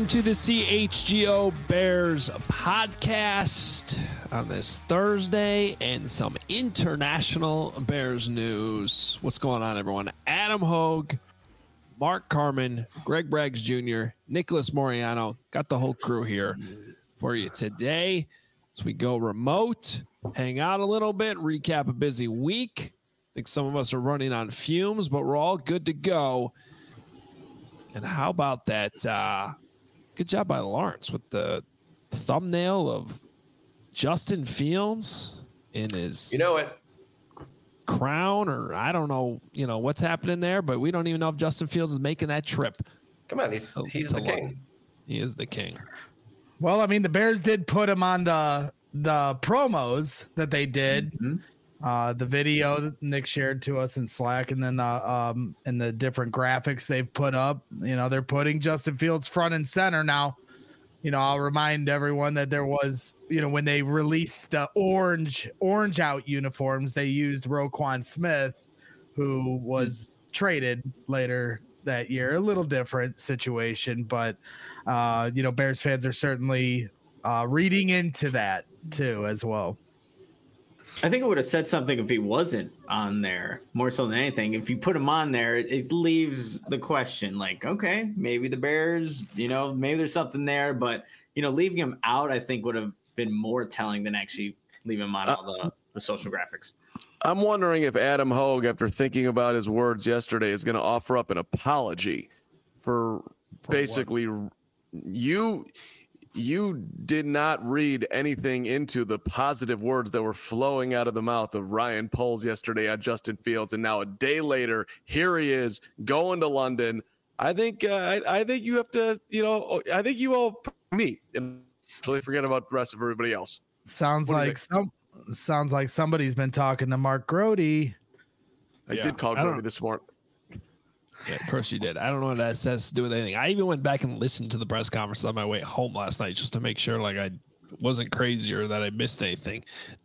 to the CHGO Bears podcast on this Thursday and some international Bears news. What's going on, everyone? Adam Hogue, Mark Carman, Greg Braggs Jr., Nicholas Moriano. Got the whole crew here for you today as we go remote, hang out a little bit, recap a busy week. I think some of us are running on fumes, but we're all good to go. And how about that? Good job by Lawrence with the thumbnail of Justin Fields in his crown, or I don't know, what's happening there, but we don't even know if Justin Fields is making that trip. Come on, he's the king. He is the king. Well, I mean, the Bears did put him on the promos that they did. The video that Nick shared to us in Slack, and then the different graphics they've put up. They're putting Justin Fields front and center now. I'll remind everyone that there was, when they released the orange out uniforms, they used Roquan Smith, who was traded later that year. A little different situation, but Bears fans are certainly reading into that too as well. I think it would have said something if he wasn't on there, more so than anything. If you put him on there, it leaves the question like, okay, maybe the Bears, maybe there's something there. But, leaving him out, I think would have been more telling than actually leaving him on all the social graphics. I'm wondering if Adam Hogue, after thinking about his words yesterday, is going to offer up an apology for basically what? You did not read anything into the positive words that were flowing out of the mouth of Ryan Poles yesterday at Justin Fields, and now a day later, here he is going to London. I think you have to, I think you owe me and totally forget about the rest of everybody else. Sounds like somebody's been talking to Mark Grody. I did call Grody this morning. Yeah, of course you did. I don't know what that says to do with anything. I even went back and listened to the press conference on my way home last night just to make sure I wasn't crazy or that I missed anything.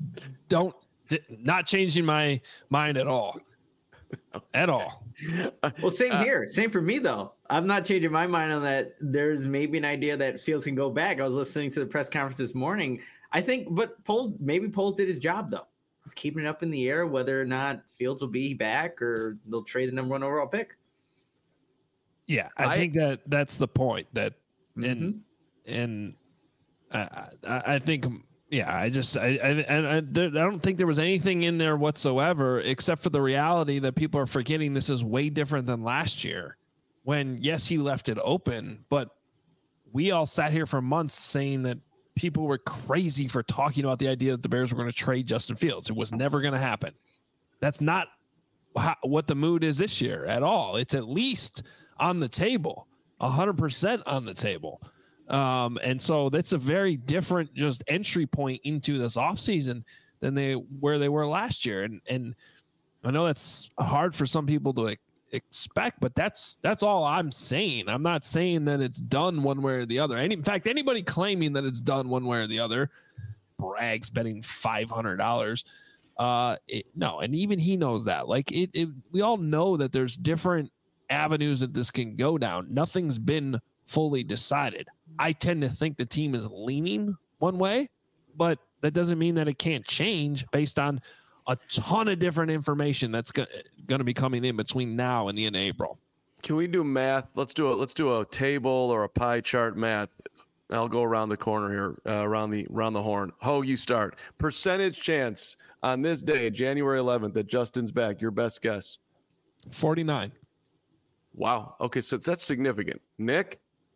Not changing my mind at all. At all. Well, same here. Same for me, though. I'm not changing my mind on that. There's maybe an idea that Fields can go back. I was listening to the press conference this morning. But Poles did his job, though. He's keeping it up in the air whether or not Fields will be back or they'll trade the number 1 overall pick. Yeah, I think that's the point. That and I think I don't think there was anything in there whatsoever except for the reality that people are forgetting this is way different than last year. When yes, he left it open, but we all sat here for months saying that people were crazy for talking about the idea that the Bears were going to trade Justin Fields. It was never going to happen. That's not what the mood is this year at all. It's at least on the table, 100% on the table. And so that's a very different just entry point into this offseason than where they were last year. And I know that's hard for some people to expect, but that's all I'm saying. I'm not saying that it's done one way or the other. And in fact, anybody claiming that it's done one way or the other, Bragg's betting $500. No, and even he knows that. We all know that there's different avenues that this can go down. Nothing's been fully decided. I tend to think the team is leaning one way, but that doesn't mean that it can't change based on a ton of different information that's going to be coming in between now and the end of April. Can we do math? Let's do a table or a pie chart math. I'll go around the corner here, around the horn. Ho, you start. Percentage chance on this day, January 11th, that Justin's back. Your best guess. 49. Wow. Okay, so that's significant. Nick?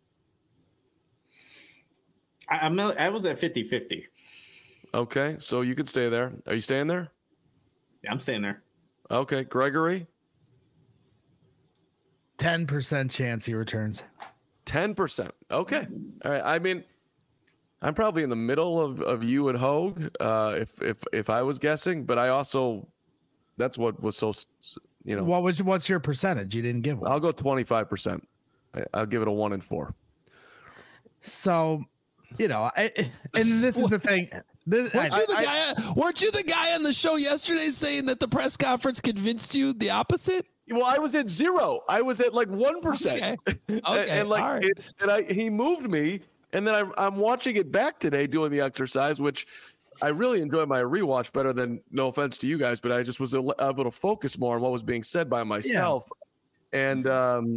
I was at 50-50. Okay, so you could stay there. Are you staying there? Yeah, I'm staying there. Okay, Gregory? 10% chance he returns. 10%. Okay. All right. I mean, I'm probably in the middle of you and Hogue, if I was guessing, but I also, that's what was so, What's your percentage? You didn't give one. I'll go 25%. I'll give it a 1 and 4. So, and this is the thing. Weren't you the guy on the show yesterday saying that the press conference convinced you the opposite? Well, I was at 0. I was at like 1%. Okay. And like, all right. he moved me. And then I'm watching it back today doing the exercise, which I really enjoy my rewatch better than, no offense to you guys, but I just was able to focus more on what was being said by myself. Yeah. And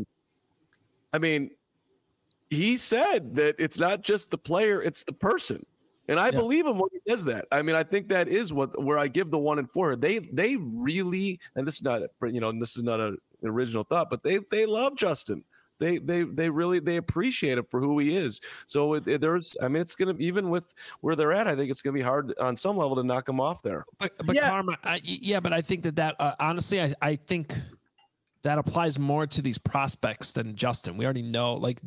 I mean, he said that it's not just the player, it's the person. And I believe him when he says that. I mean, I think that is where I give the 1 and 4. They really, and this is not, this is not an original thought, but they love Justin. They really appreciate him for who he is. So it's going to, even with where they're at, I think it's going to be hard on some level to knock him off there. But Karma, but I think that honestly, I think that applies more to these prospects than Justin. We already know, like,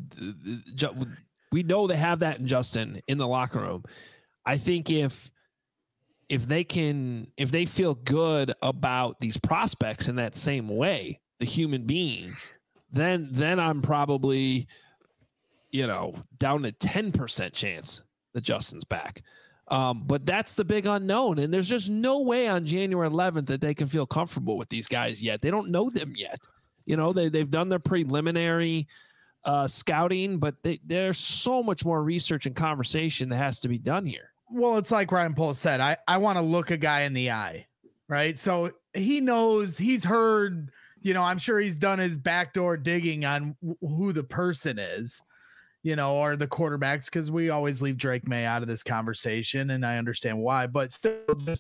we know they have that in Justin in the locker room. I think if they feel good about these prospects in that same way, the human being, then I'm probably, down to 10% chance that Justin's back. But that's the big unknown. And there's just no way on January 11th that they can feel comfortable with these guys yet. They don't know them yet. They've done their preliminary scouting, but there's so much more research and conversation that has to be done here. Well, it's like Ryan Poles said, I want to look a guy in the eye, right? So he knows, he's heard, I'm sure he's done his backdoor digging on who the person is, or the quarterbacks, because we always leave Drake May out of this conversation, and I understand why, but still,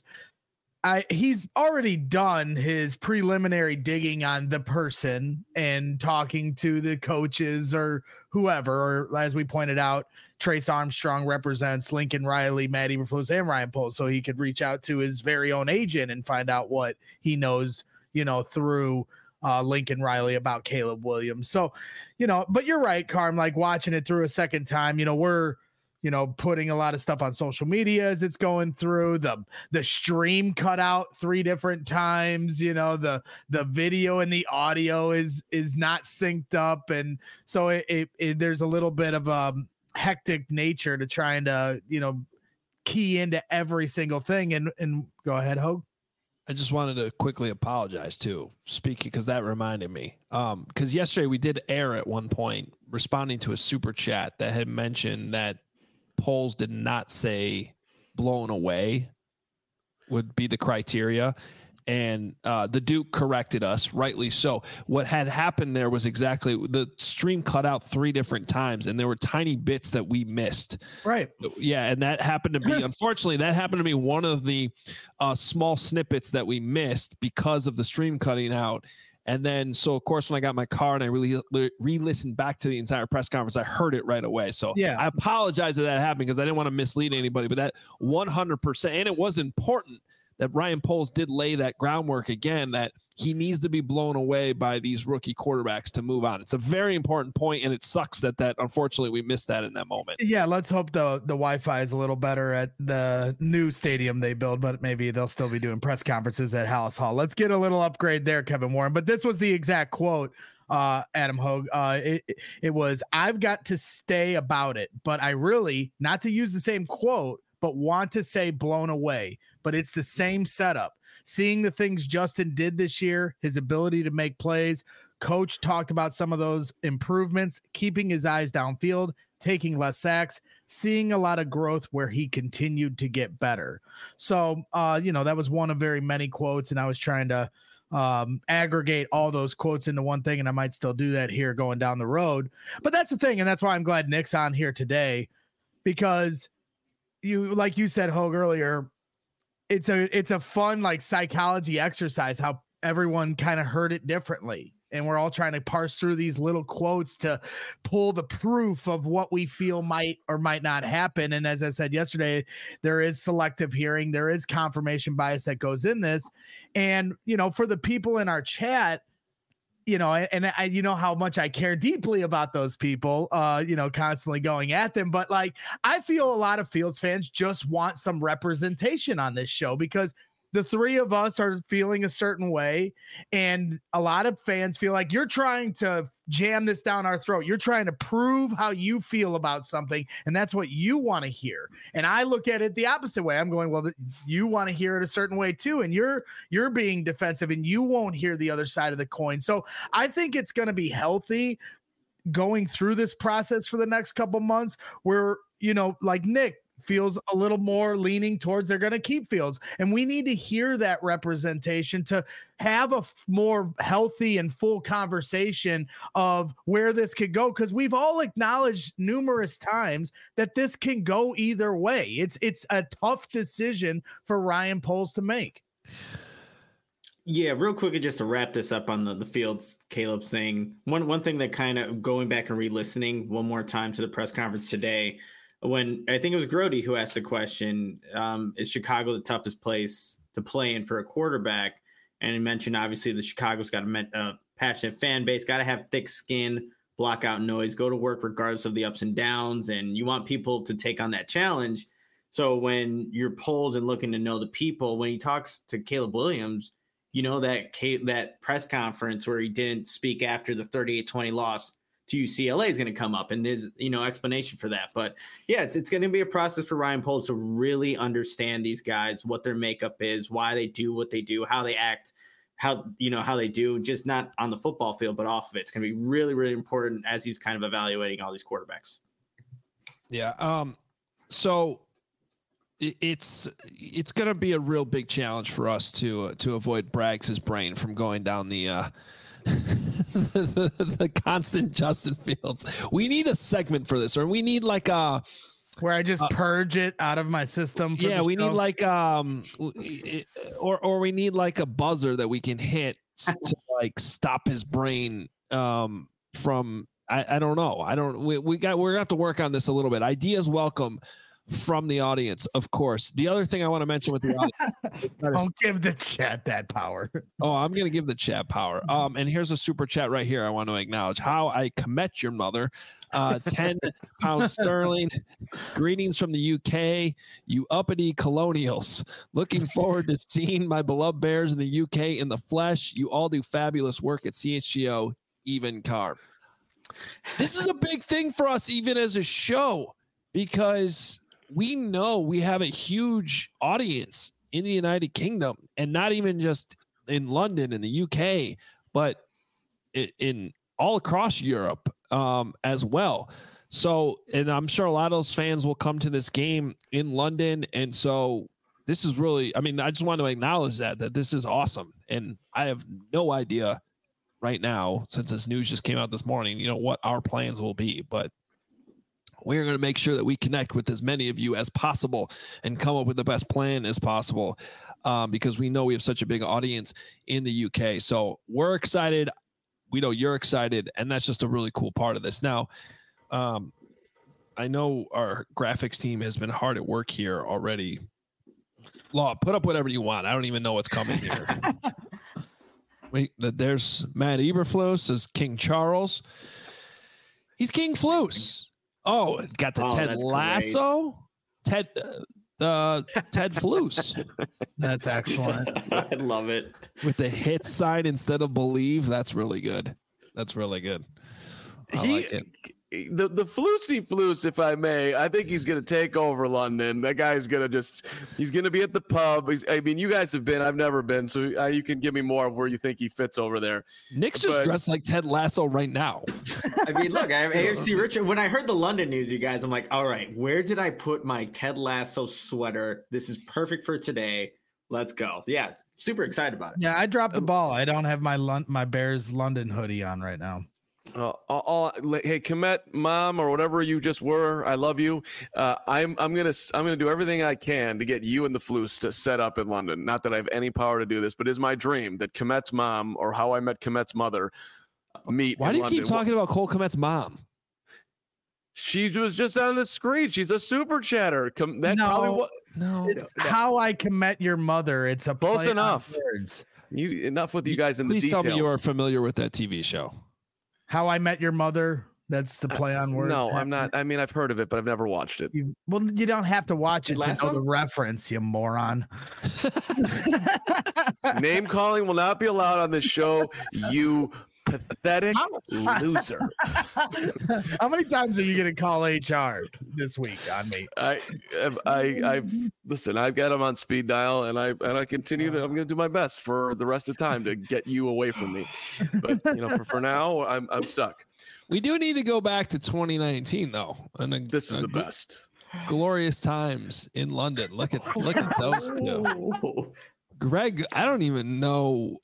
he's already done his preliminary digging on the person and talking to the coaches or whoever, or as we pointed out, Trace Armstrong represents Lincoln Riley, Matt Eberflus, and Ryan Poles, so he could reach out to his very own agent and find out what he knows, through Lincoln Riley about Caleb Williams. So, but you're right, Carm, like watching it through a second time, we're, putting a lot of stuff on social media as it's going through. The stream cut out 3 different times, the video and the audio is not synced up. And so it there's a little bit of hectic nature to trying to, key into every single thing. And go ahead, Hogue. I just wanted to quickly apologize too, because that reminded me. Because yesterday we did air at one point responding to a super chat that had mentioned that Poles did not say blown away would be the criteria. And the Duke corrected us, rightly so. What had happened there was exactly the stream cut out 3 different times, and there were tiny bits that we missed. Right. Yeah, and that happened to be, unfortunately, one of the small snippets that we missed because of the stream cutting out. And then, so of course, when I got my car and I really re-listened back to the entire press conference, I heard it right away. So yeah, I apologize that happened because I didn't want to mislead anybody, but that 100%, and it was important that Ryan Poles did lay that groundwork again, that he needs to be blown away by these rookie quarterbacks to move on. It's a very important point, and it sucks that unfortunately we missed that in that moment. Yeah, let's hope the Wi-Fi is a little better at the new stadium they build, but maybe they'll still be doing press conferences at Hallis Hall. Let's get a little upgrade there, Kevin Warren. But this was the exact quote, Adam Hogue. It was, "I've got to stay about it, but I really, not to use the same quote, but want to say blown away. But it's the same setup. Seeing the things Justin did this year, his ability to make plays, coach talked about some of those improvements, keeping his eyes downfield, taking less sacks, seeing a lot of growth where he continued to get better." So, that was one of very many quotes, and I was trying to aggregate all those quotes into one thing, and I might still do that here going down the road. But that's the thing, and that's why I'm glad Nick's on here today, because like you said, Hogue, earlier, it's a fun like psychology exercise how everyone kind of heard it differently, and we're all trying to parse through these little quotes to pull the proof of what we feel might or might not happen. And as I said yesterday, there is selective hearing, there is confirmation bias that goes in this. And for the people in our chat, and I, how much I care deeply about those people, constantly going at them. But like, I feel a lot of Fields fans just want some representation on this show because the 3 of us are feeling a certain way. And a lot of fans feel like you're trying to jam this down our throat. You're trying to prove how you feel about something, and that's what you want to hear. And I look at it the opposite way. I'm going, well, you want to hear it a certain way too, and you're being defensive, and you won't hear the other side of the coin. So I think it's going to be healthy going through this process for the next couple months, where, you know, like Nick feels a little more leaning towards they're going to keep Fields. And we need to hear that representation to have a more healthy and full conversation of where this could go. Cause we've all acknowledged numerous times that this can go either way. It's a tough decision for Ryan Poles to make. Yeah, real quickly, just to wrap this up on the Fields Caleb thing. One thing that kind of going back and re-listening one more time to the press conference today, when I think it was Grody who asked the question, is Chicago the toughest place to play in for a quarterback? And he mentioned, obviously, the Chicago's got a passionate fan base, got to have thick skin, block out noise, go to work regardless of the ups and downs, and you want people to take on that challenge. So when you're polled and looking to know the people, when he talks to Caleb Williams, you know, that press conference where he didn't speak after the 38-20 loss to UCLA is going to come up, and there's, you know, explanation for that. But yeah, it's going to be a process for Ryan Poles to really understand these guys, what their makeup is, why they do what they do, how they act, how they do, just not on the football field, but off of it. It's going to be really, really important as he's kind of evaluating all these quarterbacks. Yeah. So it's going to be a real big challenge for us to avoid Braggs' brain from going down the the constant Justin Fields. We need a segment for this, or we need like a where I just purge it out of my system. Yeah, we need like or we need like a buzzer that we can hit to like stop his brain from. I don't know. We're gonna have to work on this a little bit. Ideas welcome from the audience, of course. The other thing I want to mention with the audience, don't give the chat that power. Oh, I'm going to give the chat power. And here's a super chat right here. I want to acknowledge how I commit your mother. 10 pounds sterling. Greetings from the UK, you uppity colonials. Looking forward to seeing my beloved Bears in the UK in the flesh. You all do fabulous work at CHGO. Even Carb. This is a big thing for us, even as a show, because we know we have a huge audience in the United Kingdom, and not even just in London and the UK, but in all across Europe as well. So, and I'm sure a lot of those fans will come to this game in London. And so this is really, I mean, I just want to acknowledge that this is awesome. And I have no idea right now, since this news just came out this morning, you know, what our plans will be, but we're going to make sure that we connect with as many of you as possible and come up with the best plan as possible, because we know we have such a big audience in the UK. So we're excited. We know you're excited, and that's just a really cool part of this. Now, I know our graphics team has been hard at work here already. Law, put up whatever you want. I don't even know what's coming here. Wait, there's Matt Eberflus as King Charles. He's King Flus. Oh, got the Ted Lasso, Ted Flus. That's excellent. I love it. With the hit sign instead of believe. That's really good. That's really good. I like it. The Flusy Flus, if I may, I think he's going to take over London. That guy's going to he's going to be at the pub. I mean, you guys have been, I've never been, so you can give me more of where you think he fits over there. Nick's just dressed like Ted Lasso right now. I mean, look, I have AFC Richard. When I heard the London news, you guys, I'm like, all right, where did I put my Ted Lasso sweater? This is perfect for today. Let's go. Yeah, super excited about it. Yeah, I dropped the ball. I don't have my Bears London hoodie on right now. Hey, Komet mom, or whatever you just were, I love you. I'm gonna do everything I can to get you and the Flus to set up in London. Not that I have any power to do this, but it's my dream that Komet's mom, or How I Met Komet's mother, meet. Why do you London. keep talking about Cole Komet's mom? She was just on the screen. She's a super chatter. No, it's How I Met Your Mother. It's a close enough. Words. Enough with you guys in the details. details. Please tell me you are familiar with that TV show. How I Met Your Mother. That's the play on words. No, I'm not. I mean, I've heard of it, but I've never watched it. You don't have to watch it to know the reference, you moron. Name calling will not be allowed on this show, you Pathetic loser. How many times are you going to call HR this week on me? I've listen. I've got him on speed dial, and I continue to. I'm going to do my best for the rest of the time to get you away from me. But for now, I'm stuck. We do need to go back to 2019 though, and this is the best. Glorious times in London. Look at those two. Greg, I don't even know.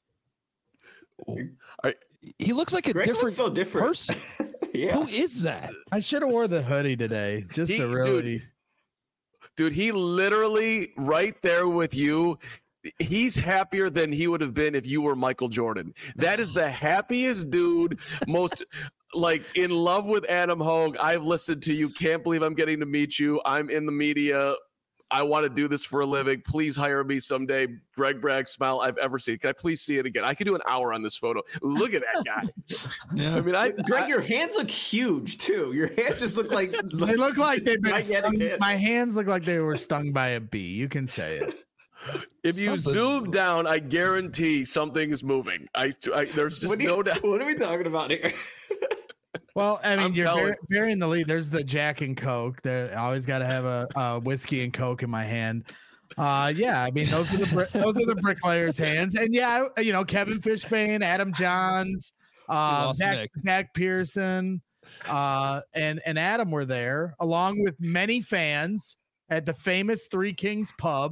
He looks like a different person. Yeah. Who is that? I should have wore the hoodie today just to really. Dude, he literally right there with you. He's happier than he would have been if you were Michael Jordan. That is the happiest dude, most like in love with Adam Hogue. I've listened to you. Can't believe I'm getting to meet you. I'm in the media. I want to do this for a living. Please hire me someday. Greg Bragg smile I've ever seen. Can I please see it again? I could do an hour on this photo. Look at that guy. Yeah. I mean, Greg, your hands look huge too. Your hands just look like they look like they've been stung. My hands look like they were stung by a bee. You can say it. If you zoom down, I guarantee something is moving. There's just no doubt. What are we talking about here? Well, I mean, you're burying the lead. There's the Jack and Coke. I always got to have a whiskey and Coke in my hand. Yeah, I mean, those are the bricklayers' hands. And yeah, Kevin Fishbane, Adam Johns, Zach Pearson, and Adam were there, along with many fans at the famous Three Kings pub.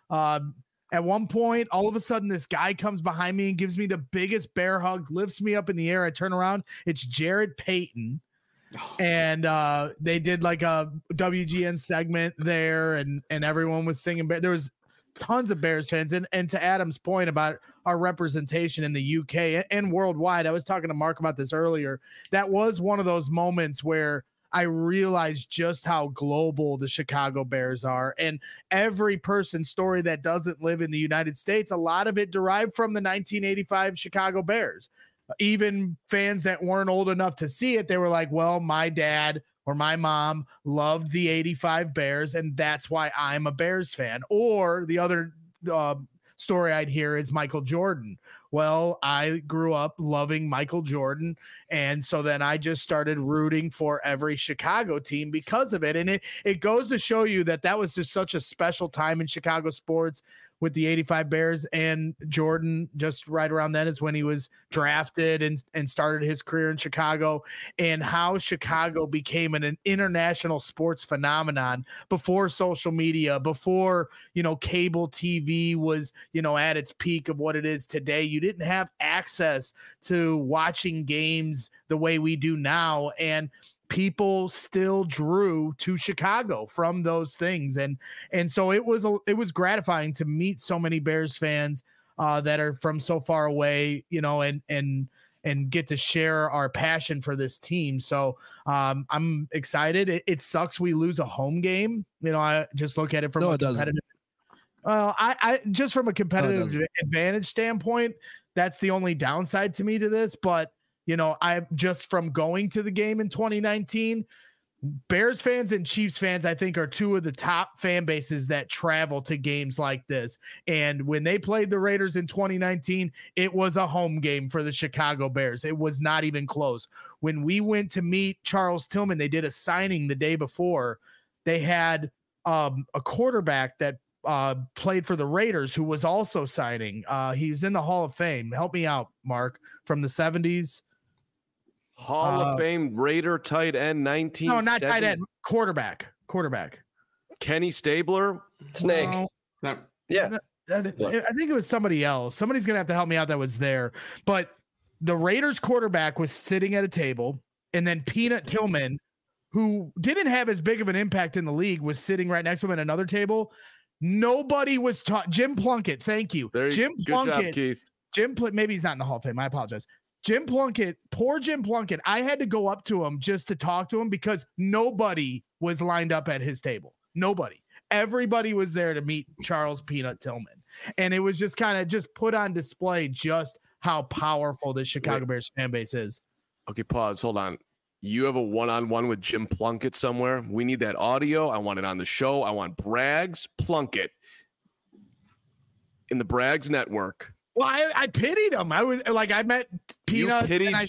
At one point, all of a sudden, this guy comes behind me and gives me the biggest bear hug, lifts me up in the air. I turn around. It's Jared Payton. And they did like a WGN segment there, and everyone was singing. There was tons of Bears fans. And to Adam's point about our representation in the UK and worldwide, I was talking to Mark about this earlier. That was one of those moments where I realized just how global the Chicago Bears are. And every person's story that doesn't live in the United States, a lot of it derived from the 1985 Chicago Bears. Even fans that weren't old enough to see it, they were like, well, my dad or my mom loved the 85 Bears, and that's why I'm a Bears fan. Or the other story I'd hear is Michael Jordan. Well, I grew up loving Michael Jordan, and so then I just started rooting for every Chicago team because of it. And it goes to show you that was just such a special time in Chicago sports with the 85 Bears, and Jordan just right around then is when he was drafted and started his career in Chicago, and how Chicago became an international sports phenomenon before social media, before, cable TV was, at its peak of what it is today. You didn't have access to watching games the way we do now. And people still drew to Chicago from those things. And so it was gratifying to meet so many Bears fans that are from so far away, and get to share our passion for this team. So I'm excited. It sucks we lose a home game. I just look at it from a competitive. Well, I just from a competitive advantage standpoint, that's the only downside to me to this. But I just from going to the game in 2019, Bears fans and Chiefs fans, I think, are two of the top fan bases that travel to games like this. And when they played the Raiders in 2019, it was a home game for the Chicago Bears. It was not even close. When we went to meet Charles Tillman, they did a signing the day before. They had a quarterback that played for the Raiders who was also signing. He was in the Hall of Fame. Help me out, Mark, from the 70s. Hall of Fame Raider tight end 19. No, not tight end. Quarterback. Kenny Stabler. Snake. Yeah. I think it was somebody else. Somebody's gonna have to help me out that was there. But the Raiders quarterback was sitting at a table, and then Peanut Tillman, who didn't have as big of an impact in the league, was sitting right next to him at another table. Nobody was taught. Jim Plunkett, thank you. Jim Plunkett. Good job, Keith. Maybe he's not in the Hall of Fame. I apologize. Jim Plunkett, poor Jim Plunkett. I had to go up to him just to talk to him because nobody was lined up at his table. Nobody. Everybody was there to meet Charles Peanut Tillman. And it was just kind of just put on display just how powerful the Chicago Bears fan base is. Okay, pause. Hold on. You have a one-on-one with Jim Plunkett somewhere. We need that audio. I want it on the show. I want Braggs Plunkett in the Braggs network. Well, I pitied him. I was like, I met Peanuts.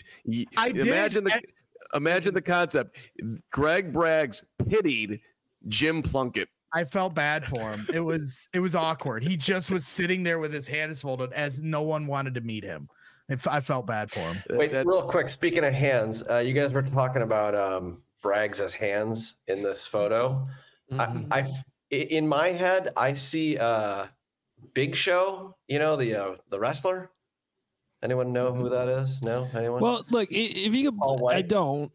Imagine the concept. Greg Braggs pitied Jim Plunkett. I felt bad for him. It was awkward. He just was sitting there with his hands folded as no one wanted to meet him. I felt bad for him. Wait, real quick. Speaking of hands, you guys were talking about Braggs' hands in this photo. Mm-hmm. In my head, I see Big Show. You know the wrestler. Anyone know who that is? No, anyone? Well, look, if you could, I don't.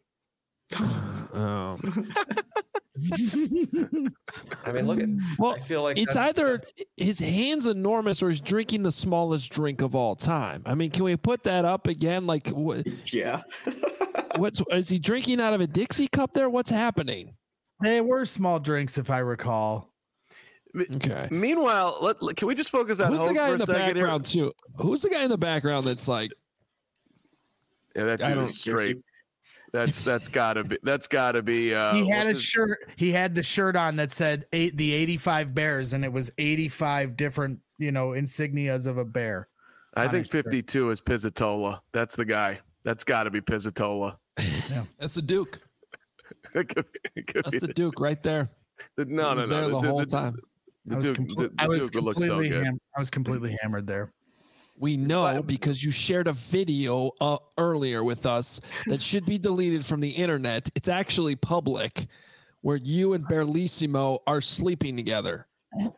I mean, look at. Well, I feel like it's either his hand's enormous or he's drinking the smallest drink of all time. I mean, can we put that up again? Like, what? Yeah. Is he drinking out of a Dixie cup there? What's happening? They were small drinks, if I recall. Okay. Meanwhile, can we just focus on who's the guy in the background here? too? Who's the guy in the background that's like? Yeah, that dude is straight. That's gotta be. He had a shirt. He had the shirt on that said the 85 Bears, and it was 85 different, insignias of a bear. I think 52 is Pizzatola. That's the guy. That's got to be Pizzatola. Yeah. That's the Duke. That's the Duke right there. No. The whole time. I was completely hammered there. We know because you shared a video earlier with us that should be deleted from the internet. It's actually public, where you and Barlissimo are sleeping together.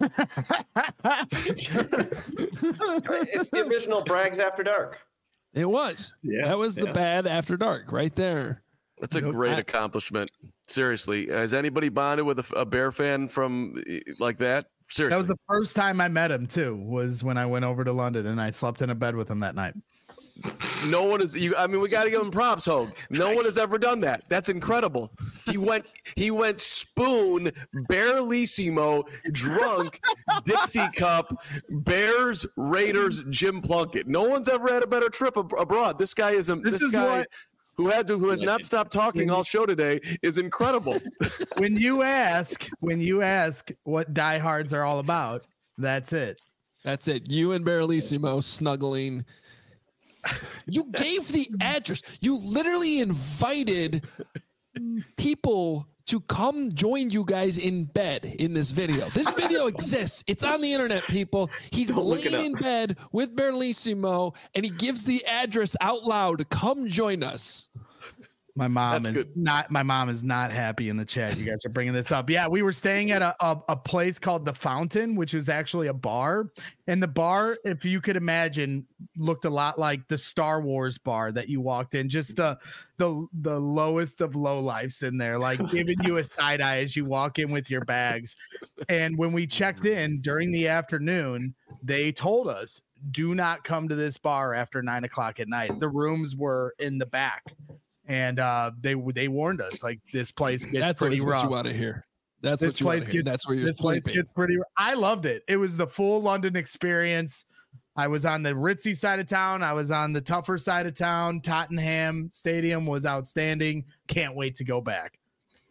It's the original Braggs After Dark. It was. Yeah, that was the bad After Dark right there. That's a great accomplishment. Seriously, has anybody bonded with a Bear fan from like that? Seriously. That was the first time I met him too, was when I went over to London and I slept in a bed with him that night. No one is we got to give him props, Hogue. No one has ever done that. That's incredible. He went spoon, Barlissimo, drunk, Dixie cup, Bears, Raiders, Jim Plunkett. No one's ever had a better trip abroad. This guy is who has not stopped talking all show today is incredible. When you ask what diehards are all about, that's it. That's it. You and Barlissimo snuggling. You gave the address. You literally invited people to come join you guys in bed in this video. This video exists. It's on the internet, people. He's laying in bed with Barlissimo, and he gives the address out loud. Come join us. My mom is not happy in the chat. You guys are bringing this up. Yeah, we were staying at a place called The Fountain, which was actually a bar. And the bar, if you could imagine, looked a lot like the Star Wars bar that you walked in. Just the lowest of low lifes in there, like giving you a side eye as you walk in with your bags. And when we checked in during the afternoon, they told us, do not come to this bar after 9 o'clock at night. The rooms were in the back. And they warned us, like, this place gets pretty rough. That's what you want to hear. That's what you want to hear. That's where you're sleeping. Place gets pretty. I loved it. It was the full London experience. I was on the ritzy side of town. I was on the tougher side of town. Tottenham Stadium was outstanding. Can't wait to go back.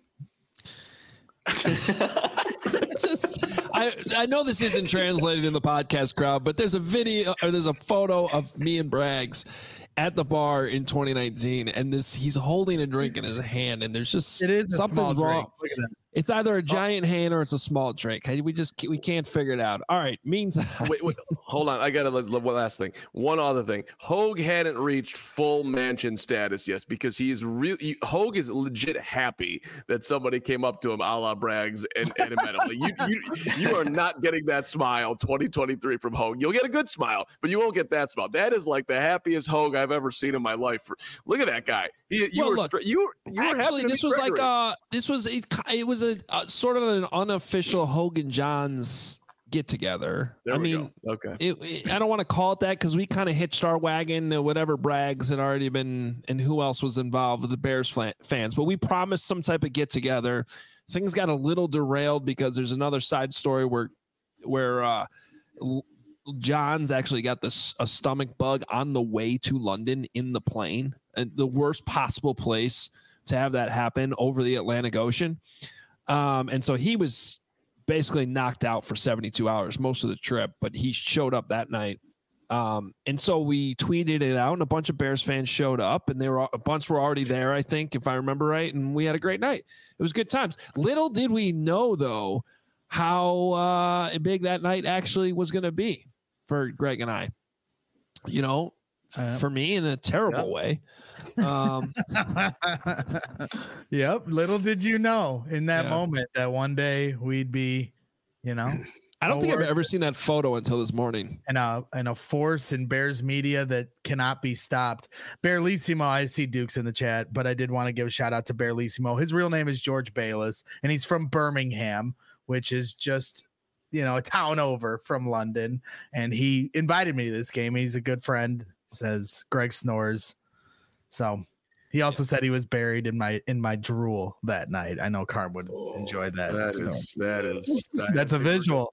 I know this isn't translated in the podcast crowd, but there's a video or there's a photo of me and Braggs at the bar in 2019, and he's holding a drink in his hand, and there's just something's wrong. Look at that. It's either a giant hand or it's a small drink. We can't figure it out. All right. Meantime, wait, hold on. I got one last thing. One other thing. Hogue hadn't reached full mansion status yet because Hogue is legit happy that somebody came up to him, a la Braggs, and met him. You are not getting that smile 2023 from Hogue. You'll get a good smile, but you won't get that smile. That is like the happiest Hogue I've ever seen in my life. Look at that guy. You were happy. This was it was a sort of an unofficial Hogan Johns get together. I mean, okay. I don't want to call it that because we kind of hitched our wagon to whatever Braggs had already been and who else was involved with the Bears fans. But we promised some type of get together. Things got a little derailed because there's another side story where Johns actually got a stomach bug on the way to London in the plane, and the worst possible place to have that happen over the Atlantic Ocean. And so he was basically knocked out for 72 hours, most of the trip, but he showed up that night And so we tweeted it out, and a bunch of Bears fans showed up, and a bunch were already there, I think, if I remember right. And we had a great night. It was good times. Little did we know, though, how big that night actually was going to be for Greg and I. You know, for me in a terrible way. Yep. Little did you know in that moment that one day we'd be, you know. I don't think I've ever seen that photo until this morning. And a force in Bears media that cannot be stopped. Bearlissimo, I see Duke's in the chat, but I did want to give a shout out to Bearlissimo. His real name is George Bayless, and he's from Birmingham, which is just, you know, a town over from London. And he invited me to this game. He's a good friend, says Greg snores. So he also said he was buried in my drool that night. I know Carm would enjoy that. That's a visual.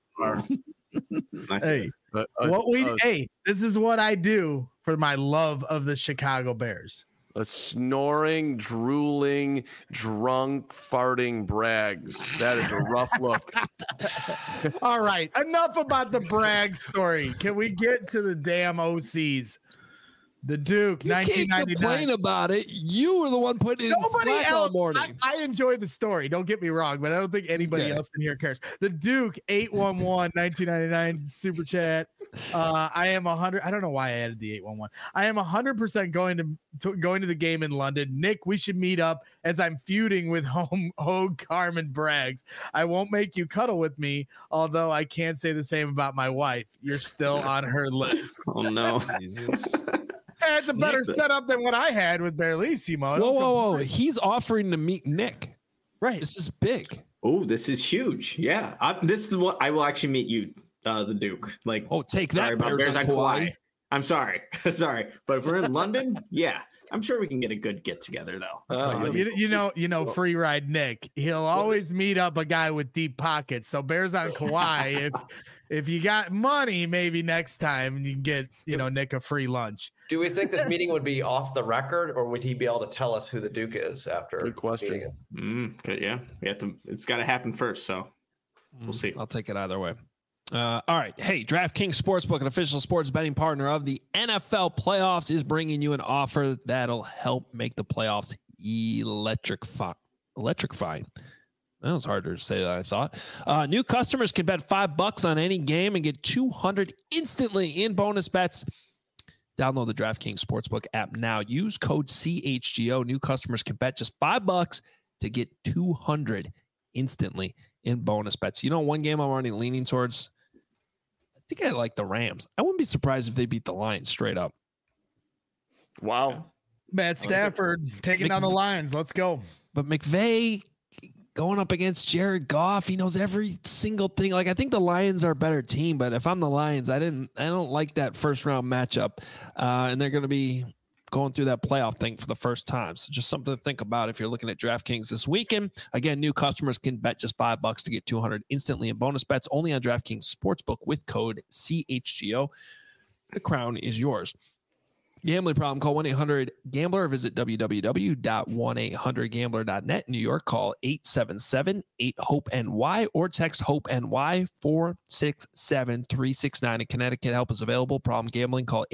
Hey, hey, this is what I do for my love of the Chicago Bears. A snoring, drooling, drunk, farting Braggs. That is a rough look. All right, enough about the Bragg story. Can we get to the damn OCs? The Duke, 1999. Can't complain about it. You were the one putting it in Slack all morning. I enjoyed the story. Don't get me wrong, but I don't think anybody else in here cares. The Duke, 811, 1999 super chat. I am 100. I don't know why I added the 811. I am 100% going to the game in London. Nick, we should meet up as I'm feuding with Hogue, Carmen Braggs. I won't make you cuddle with me, although I can't say the same about my wife. You're still on her list. Oh no. Jesus. It's a better setup than what I had with Bearlissimo. Whoa. He's offering to meet Nick. Right. This is big. Oh, this is huge. Yeah. This is what I will actually meet you, the Duke. Like, take that. Bears on Kauai. I'm sorry. Sorry. But if we're in London, yeah. I'm sure we can get a good get together though. You know, free ride Nick. He'll always meet up a guy with deep pockets. So Bears on Kauai, if you got money, maybe next time you can get, Nick a free lunch. Do we think this meeting would be off the record, or would he be able to tell us who the Duke is after? Good question. Yeah, we have to. It's got to happen first, so we'll see. I'll take it either way. All right. Hey, DraftKings Sportsbook, an official sports betting partner of the NFL playoffs, is bringing you an offer that'll help make the playoffs electrifying. That was harder to say than I thought. New customers can bet $5 on any game and get $200 instantly in bonus bets. Download the DraftKings Sportsbook app now. Use code CHGO. New customers can bet just $5 to get $200 instantly in bonus bets. You know, one game I'm already leaning towards, I think I like the Rams. I wouldn't be surprised if they beat the Lions straight up. Wow. Matt Stafford taking down the Lions. Let's go. But McVay going up against Jared Goff, he knows every single thing. Like, I think the Lions are a better team, but if I'm the Lions, I don't like that first round matchup. And they're going to be going through that playoff thing for the first time. So just something to think about if you're looking at DraftKings this weekend. Again, new customers can bet just $5 to get $200 instantly in bonus bets only on DraftKings Sportsbook with code CHGO. The crown is yours. Gambling problem, call 1-800-GAMBLER or visit www.1800gambler.net. New York, call 877-8-HOPE-NY or text HOPE-NY 467-369. In Connecticut, help is available. Problem gambling, call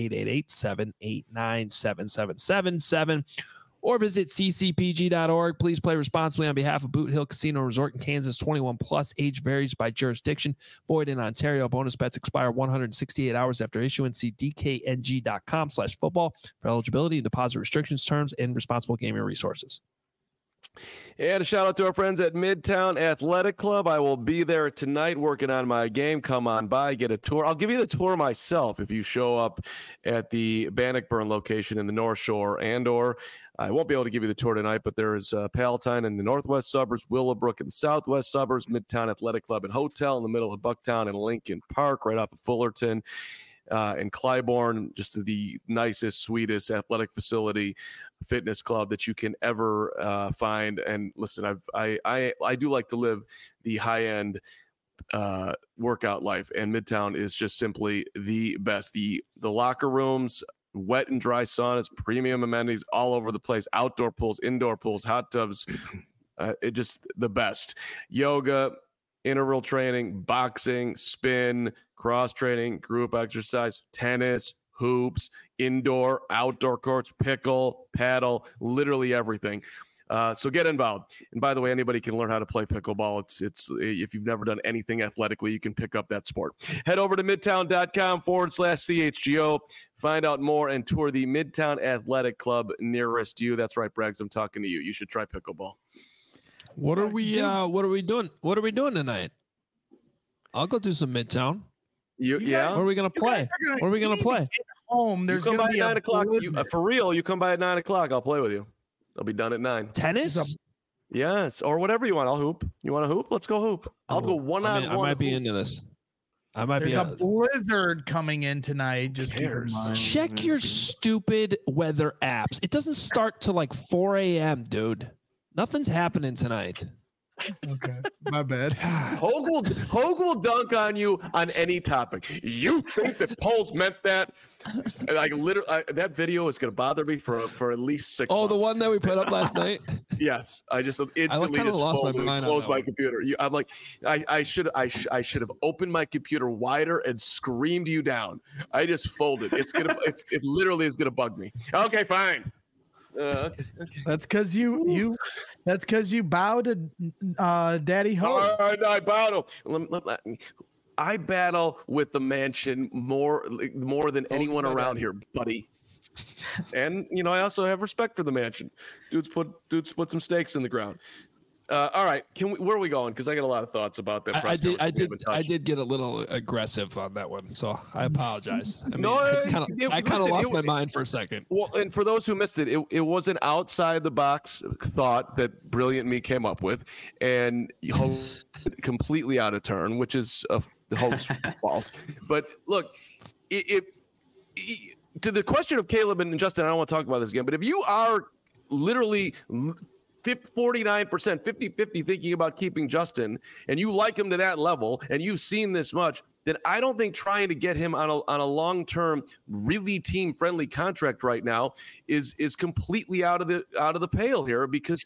888-789-7777 or visit ccpg.org. Please play responsibly on behalf of Boot Hill Casino Resort in Kansas. 21 plus, age varies by jurisdiction. Void in Ontario. Bonus bets expire 168 hours after issuance. See dkng.com/football for eligibility and deposit restrictions, terms, and responsible gaming resources. And a shout out to our friends at Midtown Athletic Club. I will be there tonight working on my game. Come on by, get a tour. I'll give you the tour myself if you show up at the Bannockburn location in the North Shore, and/or I won't be able to give you the tour tonight, but there is Palatine in the northwest suburbs, Willowbrook in the southwest suburbs, Midtown Athletic Club and Hotel in the middle of Bucktown, and Lincoln Park right off of Fullerton. And Clybourne, just the nicest, sweetest athletic facility, fitness club that you can ever find. And listen, I do like to live the high end workout life, and Midtown is just simply the best. The locker rooms, wet and dry saunas, premium amenities all over the place, outdoor pools, indoor pools, hot tubs, it just the best. Yoga, interval training, boxing, spin, cross training, group exercise, tennis, hoops, indoor, outdoor courts, pickle, paddle, literally everything. So get involved. And by the way, anybody can learn how to play pickleball. It's if you've never done anything athletically, you can pick up that sport. Head over to midtown.com/CHGO. Find out more and tour the Midtown Athletic Club nearest you. That's right, Braggs. I'm talking to you. You should try pickleball. What are we doing? What are we doing tonight? I'll go do some Midtown. Yeah. What are we gonna play? What are we gonna play? Home. There's you come gonna by be at 9 o'clock. For real, you come by at 9 o'clock. I'll play with you. I'll be done at 9. Tennis? Yes, or whatever you want. I'll hoop. You want to hoop? Let's go hoop. I'll go one-on-one. I might be into this. There's a blizzard coming in tonight. Just keep in mind. Check your stupid weather apps. It doesn't start till like 4 a.m., dude. Nothing's happening tonight. Okay, my bad. Hogue will dunk on you on any topic. You think that polls meant that? Like literally, that video is going to bother me for at least 6 months. The one that we put up last night. Yes, I just instantly lost my mind. Closed my computer. I'm like, I should have opened my computer wider and screamed you down. I just folded. It literally is gonna bug me. Okay, fine. Okay. That's because you bow to Daddy Ho. I bow to. I battle with the mansion more than anyone around here, buddy. And I also have respect for the mansion. Dudes put some stakes in the ground. All right, where are we going? Because I got a lot of thoughts about that. I did get a little aggressive on that one, so I apologize. I kind of lost my mind for a second. Well, and for those who missed it, it was an outside the box thought that Brilliant Me came up with, and completely out of turn, which is the host's fault. But look, to the question of Caleb and Justin, I don't want to talk about this again. But if you are literally 49%, 50-50 thinking about keeping Justin, and you like him to that level, and you've seen this much, then I don't think trying to get him on a long-term, really team-friendly contract right now is completely out of the pale here, because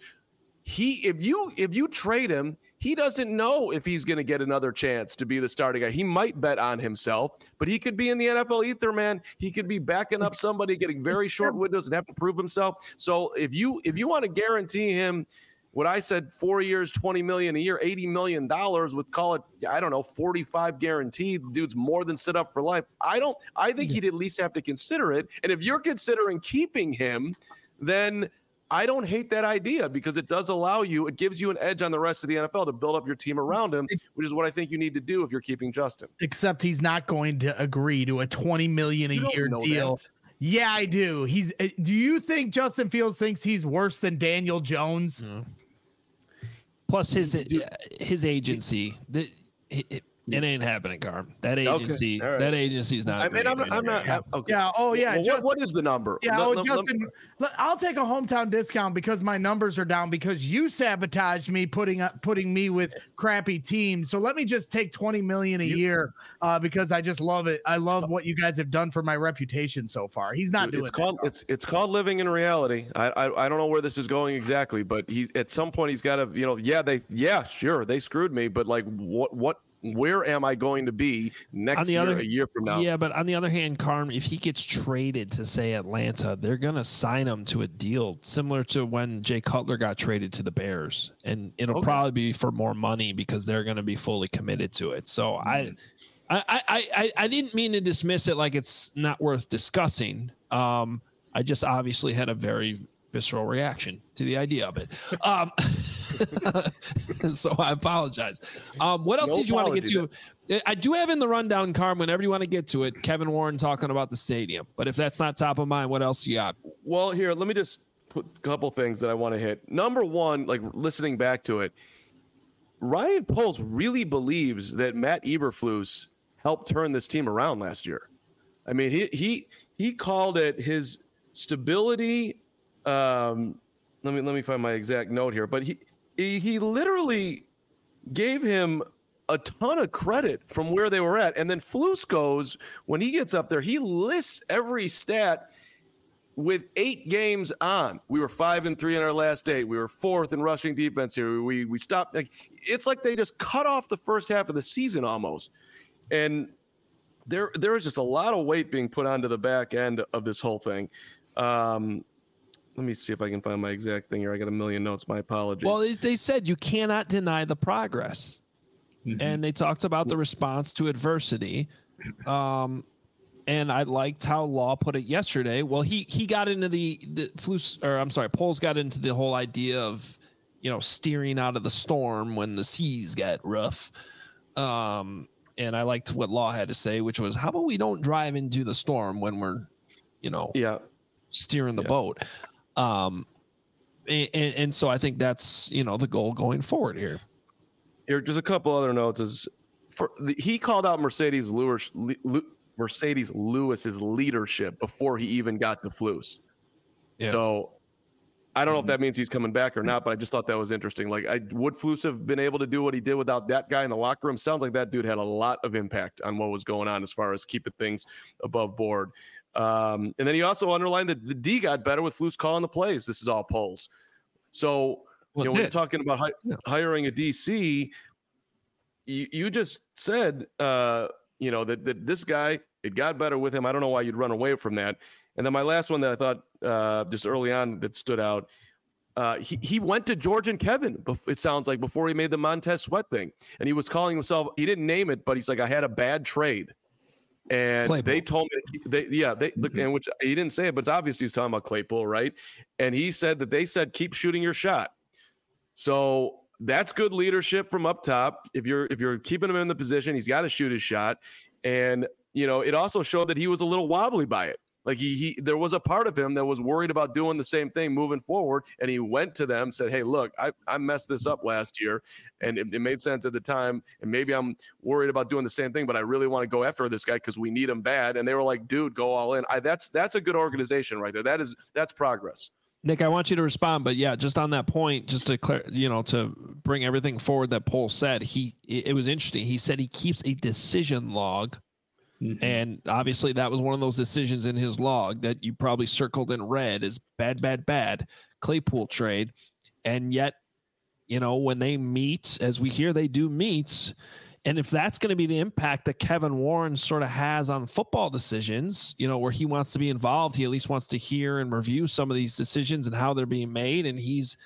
if you trade him, he doesn't know if he's going to get another chance to be the starting guy. He might bet on himself, but he could be in the NFL ether, man. He could be backing up somebody, getting very short windows and have to prove himself. So if you want to guarantee him what I said, 4 years, $20 million a year, $80 million with, call it, I don't know, 45 guaranteed, dude's more than set up for life. I think he'd at least have to consider it. And if you're considering keeping him, then I don't hate that idea, because it does it gives you an edge on the rest of the NFL to build up your team around him, which is what I think you need to do if you're keeping Justin. Except he's not going to agree to a $20 million a year deal. That. Yeah, I do. Do you think Justin Fields thinks he's worse than Daniel Jones? Mm. Plus his agency. It ain't happening, Carm. That agency, okay. Right. That agency is not. I'm not. Okay. Yeah. Oh, yeah. Well, what is the number? Yeah. Justin, I'll take a hometown discount because my numbers are down because you sabotaged me putting me with crappy teams. So let me just take $20 million a year because I just love it. I love what you guys have done for my reputation so far. He's not doing it. It's called living in reality. I don't know where this is going exactly, but at some point he's got to. Sure, they screwed me, but like what? Where am I going to be next year, a year from now? Yeah, but on the other hand, Carm, if he gets traded to, say, Atlanta, they're going to sign him to a deal similar to when Jay Cutler got traded to the Bears. And it'll probably be for more money because they're going to be fully committed to it. So I didn't mean to dismiss it like it's not worth discussing. I just obviously had a very visceral reaction to the idea of it. So I apologize. What else did you want to get to? I do have in the rundown, Carm, whenever you want to get to it, Kevin Warren talking about the stadium. But if that's not top of mind, what else you got? Well, here, let me just put a couple things that I want to hit. Number one, like listening back to it, Ryan Poles really believes that Matt Eberflus helped turn this team around last year. I mean, he called it his stability. Let me find my exact note here, but he literally gave him a ton of credit from where they were at. And then Flus goes, when he gets up there, he lists every stat with 8 games on, we were 5-3 in our last 8. We were 4th in rushing defense here. We stopped. Like, it's like they just cut off the first half of the season almost. And there is just a lot of weight being put onto the back end of this whole thing. Let me see if I can find my exact thing here. I got a million notes. My apologies. Well, they said you cannot deny the progress. Mm-hmm. And they talked about the response to adversity. And I liked how Law put it yesterday. Well, he got into Poles got into the whole idea of, steering out of the storm when the seas get rough. And I liked what Law had to say, which was, how about we don't drive into the storm when we're, steering the boat. And so I think that's, the goal going forward here. Here, just a couple other notes he called out Mercedes Lewis's leadership before he even got to Flus. Yeah. So I don't know if that means he's coming back or not, but I just thought that was interesting. Like, would Flus have been able to do what he did without that guy in the locker room? Sounds like that dude had a lot of impact on what was going on as far as keeping things above board. And then he also underlined that the D got better with Flus calling the plays. This is all Poles. So, when you're talking about hiring a DC, you just said, that this guy, it got better with him. I don't know why you'd run away from that. And then my last one that I thought just early on that stood out, he went to George and Kevin, it sounds like, before he made the Montez Sweat thing. And he was calling himself, he didn't name it, but he's like, I had a bad trade. And Claypool. They told me, and which he didn't say it, but it's obviously he's talking about Claypool, right? And he said that they said, keep shooting your shot. So that's good leadership from up top. If you're keeping him in the position, he's got to shoot his shot. And, it also showed that he was a little wobbly by it. Like there was a part of him that was worried about doing the same thing moving forward. And he went to them, said, hey, look, I messed this up last year. And it made sense at the time. And maybe I'm worried about doing the same thing, but I really want to go after this guy because we need him bad. And they were like, dude, go all in. That's a good organization right there. That's progress. Nick, I want you to respond, but yeah, just on that point, just to to bring everything forward that Pohl said, it was interesting. He said he keeps a decision log. Mm-hmm. And obviously that was one of those decisions in his log that you probably circled in red as bad Claypool trade. And yet, when they meet, as we hear, they do meet. And if that's going to be the impact that Kevin Warren sort of has on football decisions, where he wants to be involved, he at least wants to hear and review some of these decisions and how they're being made. And he's,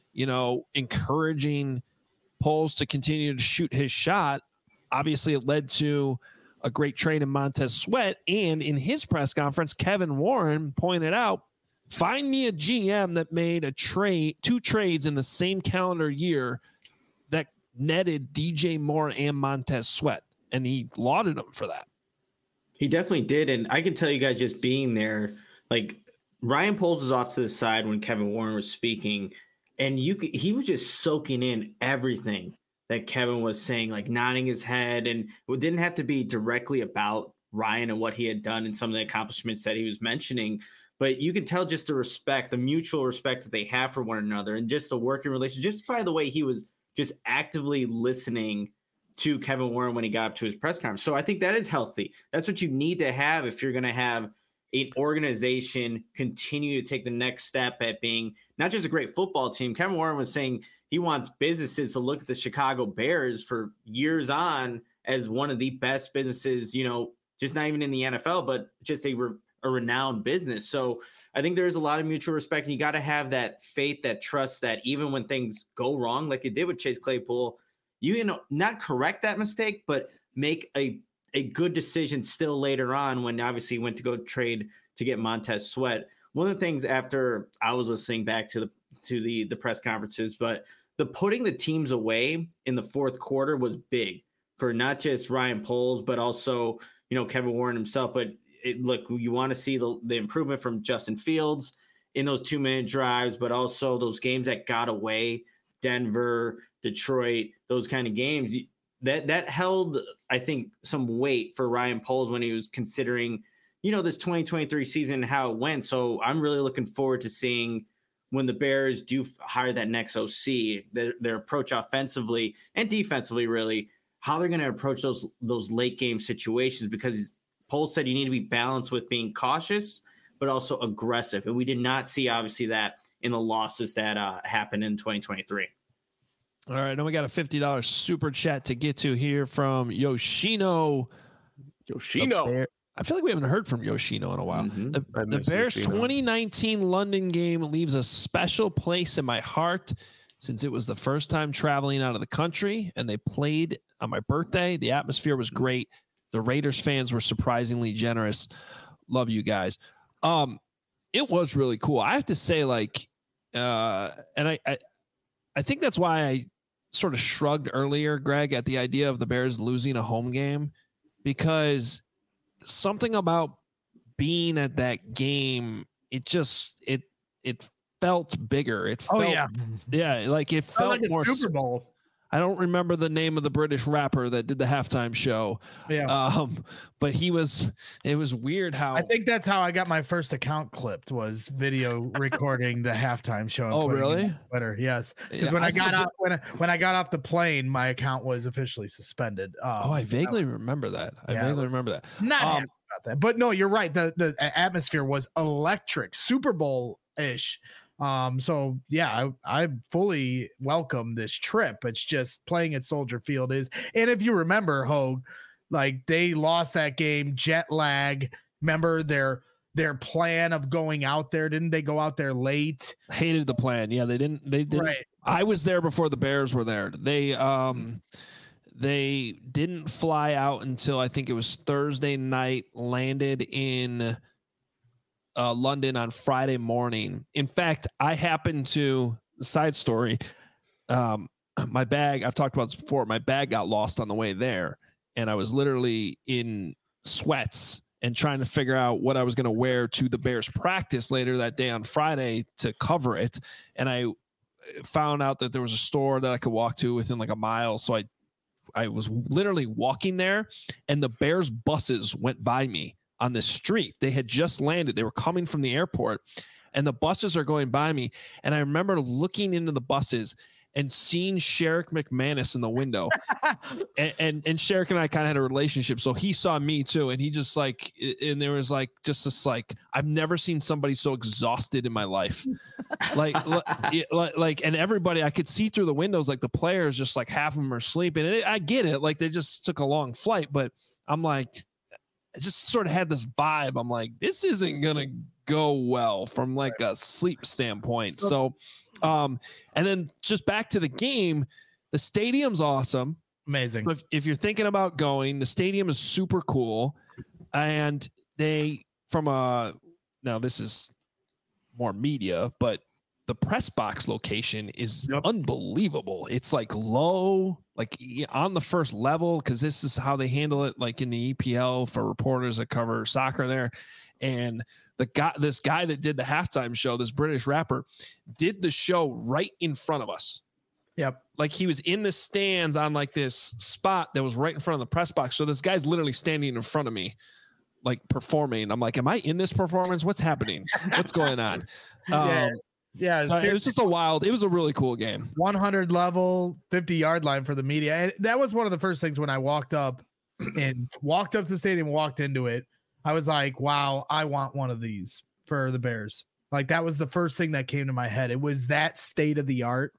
encouraging Poles to continue to shoot his shot. Obviously, it led to a great trade in Montez Sweat. And in his press conference, Kevin Warren pointed out, find me a GM that made two trades in the same calendar year that netted DJ Moore and Montez Sweat. And he lauded him for that. He definitely did. And I can tell you guys, just being there, like, Ryan Poles was off to the side when Kevin Warren was speaking, and he was just soaking in everything that Kevin was saying, like nodding his head, and it didn't have to be directly about Ryan and what he had done and some of the accomplishments that he was mentioning, but you could tell just the mutual respect that they have for one another, and just the working relationship, just by the way he was just actively listening to Kevin Warren when he got up to his press conference. So I think that is healthy. That's what you need to have if you're going to have an organization continue to take the next step at being not just a great football team. Kevin Warren was saying he wants businesses to look at the Chicago Bears for years on as one of the best businesses, just not even in the NFL, but just a renowned business. So I think there's a lot of mutual respect, and you got to have that faith, that trust, that even when things go wrong, like it did with Chase Claypool, not correct that mistake, but make a good decision still later on when obviously he went to go trade to get Montez Sweat. One of the things after I was listening back to the press conferences, but the putting the teams away in the fourth quarter was big for not just Ryan Poles, but also, Kevin Warren himself. But look, you want to see the improvement from Justin Fields in those 2-minute drives, but also those games that got away, Denver, Detroit, those kind of games that held, I think, some weight for Ryan Poles when he was considering, this 2023 season and how it went. So I'm really looking forward to seeing when the Bears do hire that next OC, their approach offensively and defensively, really, how they're going to approach those late game situations, because Poles said you need to be balanced with being cautious, but also aggressive. And we did not see, obviously, that in the losses that happened in 2023. All right, now we got a $50 super chat to get to here from Yoshino. I feel like we haven't heard from Yoshino in a while. Mm-hmm. The Bears' 2019 London game leaves a special place in my heart since it was the first time traveling out of the country, and they played on my birthday. The atmosphere was great. The Raiders fans were surprisingly generous. Love you guys. It was really cool. I have to say, like, and I think that's why I sort of shrugged earlier, Greg, at the idea of the Bears losing a home game, because something about being at that game, it felt bigger. It felt, like it felt like more Super Bowl. I don't remember the name of the British rapper that did the halftime show. Yeah. But it was weird how I think that's how I got my first account clipped, was video recording the halftime show. Oh, really? Twitter, yes. Because Yeah, when I got off the plane, my account was officially suspended. I vaguely remember that. Not happy about that, but no, you're right. The atmosphere was electric, Super Bowl-ish. So yeah, I fully welcome this trip. It's just playing at Soldier Field is, and if you remember, Hogue, like they lost that game, jet lag. Remember their plan of going out there? Didn't they go out there late? Hated the plan. Yeah, they didn't. Right. I was there before the Bears were there. They didn't fly out until I think it was Thursday night. Landed in London on Friday morning. In fact, I happened to, side story, my bag, I've talked about this before, my bag got lost on the way there, and I was literally in sweats and trying to figure out what I was going to wear to the Bears practice later that day on Friday to cover it. And I found out that there was a store that I could walk to within like a mile. So I was literally walking there, and the Bears buses went by me on the street. They had just landed. They were coming from the airport, and the buses are going by me. And I remember looking into the buses and seeing Sherrick McManus in the window. and Sherrick and I kind of had a relationship. So he saw me too. And he just like, and there was like, just this, like, I've never seen somebody so exhausted in my life. like, and everybody, I could see through the windows, like the players, just like half of them are sleeping. And I get it. Like they just took a long flight, but I'm like, I just sort of had this vibe. I'm like, this isn't going to go well from like a sleep standpoint. So, and then just back to the game, the stadium's awesome. Amazing. So if you're thinking about going, the stadium is super cool. And now this is more media, but the press box location is unbelievable. It's like low, like on the first level, because this is how they handle it, like in the EPL for reporters that cover soccer there. And this guy that did the halftime show, this British rapper, did the show right in front of us. Yep. Like he was in the stands on like this spot that was right in front of the press box. So this guy's literally standing in front of me, like performing. I'm like, am I in this performance? What's happening? What's going on? Yeah, so it was just it was a really cool game. 100 level, 50-yard line for the media. And that was one of the first things when I walked up to the stadium, walked into it. I was like, wow, I want one of these for the Bears. Like that was the first thing that came to my head. It was that state of the art.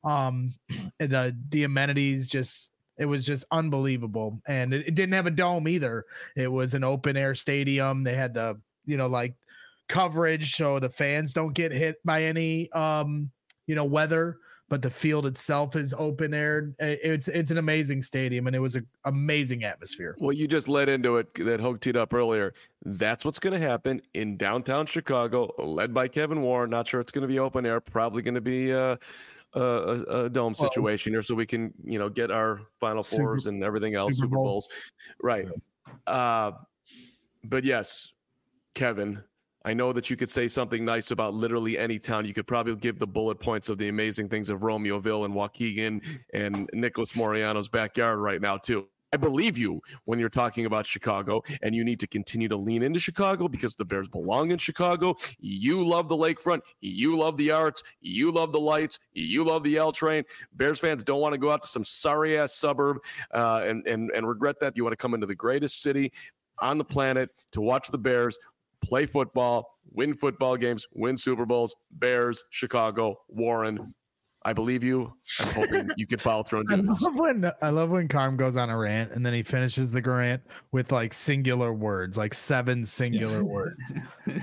The amenities it was just unbelievable. And it didn't have a dome either. It was an open air stadium. They had the, like coverage so the fans don't get hit by any weather, but the field itself is open air. It's an amazing stadium, and it was an amazing atmosphere. Well, you just led into it that Hogue teed up earlier. That's what's going to happen in downtown Chicago, led by Kevin Warren. Not sure it's going to be open air, probably going to be a dome situation here, so we can get our Final Fours and everything else, Super Bowls. Right. But yes, Kevin, I know that you could say something nice about literally any town. You could probably give the bullet points of the amazing things of Romeoville and Waukegan and Nicholas Moriano's backyard right now, too. I believe you when you're talking about Chicago, and you need to continue to lean into Chicago because the Bears belong in Chicago. You love the lakefront. You love the arts. You love the lights. You love the L train. Bears fans don't want to go out to some sorry-ass suburb and regret that. You want to come into the greatest city on the planet to watch the Bears. play football, win football games, win Super Bowls. Bears, Chicago, Warren. I believe you. I'm hoping you could follow through and do this. I love when Carm goes on a rant and then he finishes the rant with like singular words, like 7 singular words.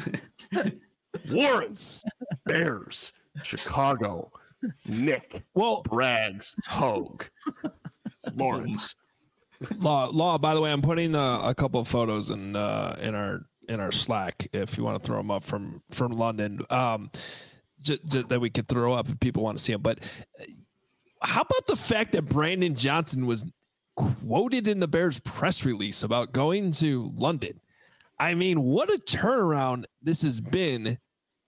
Warrens, Bears, Chicago, Nick, Braggs, Hogue, Lawrence. Law. By the way, I'm putting a couple of photos in our Slack if you want to throw them up from London. That we could throw up if people want to see them. But how about the fact that Brandon Johnson was quoted in the Bears press release about going to London? I mean, what a turnaround this has been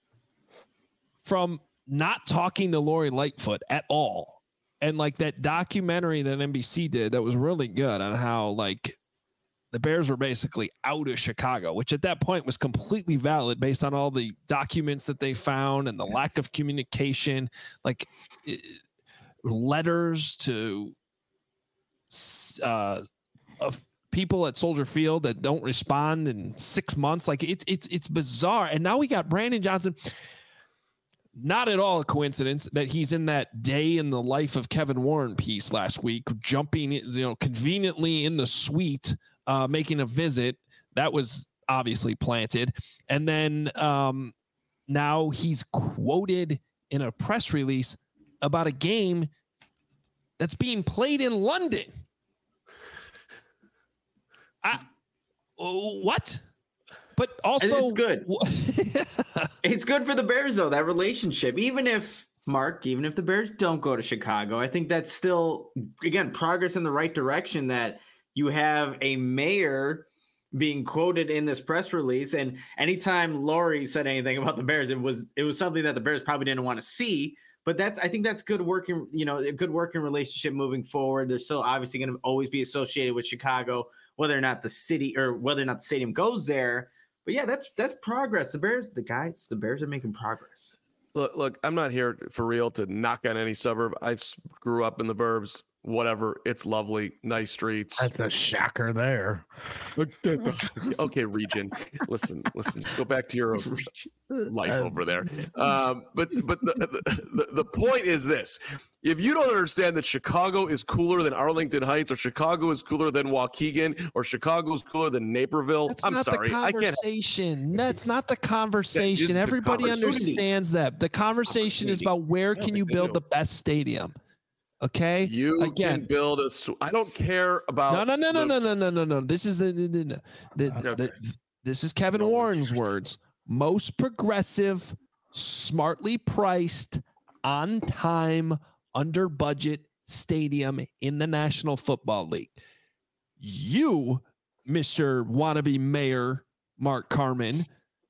from not talking to Lori Lightfoot at all. And like that documentary that NBC did that was really good on how like the Bears were basically out of Chicago, which at that point was completely valid based on all the documents that they found and the lack of communication, like letters to of people at Soldier Field that don't respond in 6 months. Like it's bizarre. And now we got Brandon Johnson. Not at all a coincidence that he's in that day in the life of Kevin Warren piece last week, jumping, conveniently in the suite, making a visit that was obviously planted. And then now he's quoted in a press release about a game that's being played in London. What? But also, it's good. It's good for the Bears, though, that relationship. Even if the Bears don't go to Chicago, I think that's still, again, progress in the right direction that you have a mayor being quoted in this press release. And anytime Lori said anything about the Bears, it was something that the Bears probably didn't want to see. But I think that's good working, a good working relationship moving forward. They're still obviously going to always be associated with Chicago, whether or not the stadium goes there. But yeah, that's progress. The Bears are making progress. Look, I'm not here for real to knock on any suburb. I grew up in the burbs. Whatever. It's lovely. Nice streets. That's a shocker there. Okay, region. Listen. Just go back to your life over there. But the point is this: if you don't understand that Chicago is cooler than Arlington Heights, or Chicago is cooler than Waukegan, or Chicago is cooler than Naperville, I'm sorry. I can't. That's not the conversation. Everybody understands that. The conversation is about where can you build the best stadium. Okay. You can build I don't care about. No. This is this is Kevin Warren's words. Most progressive, smartly priced, on time, under budget stadium in the National Football League. You, Mr. Wannabe Mayor Mark Carman,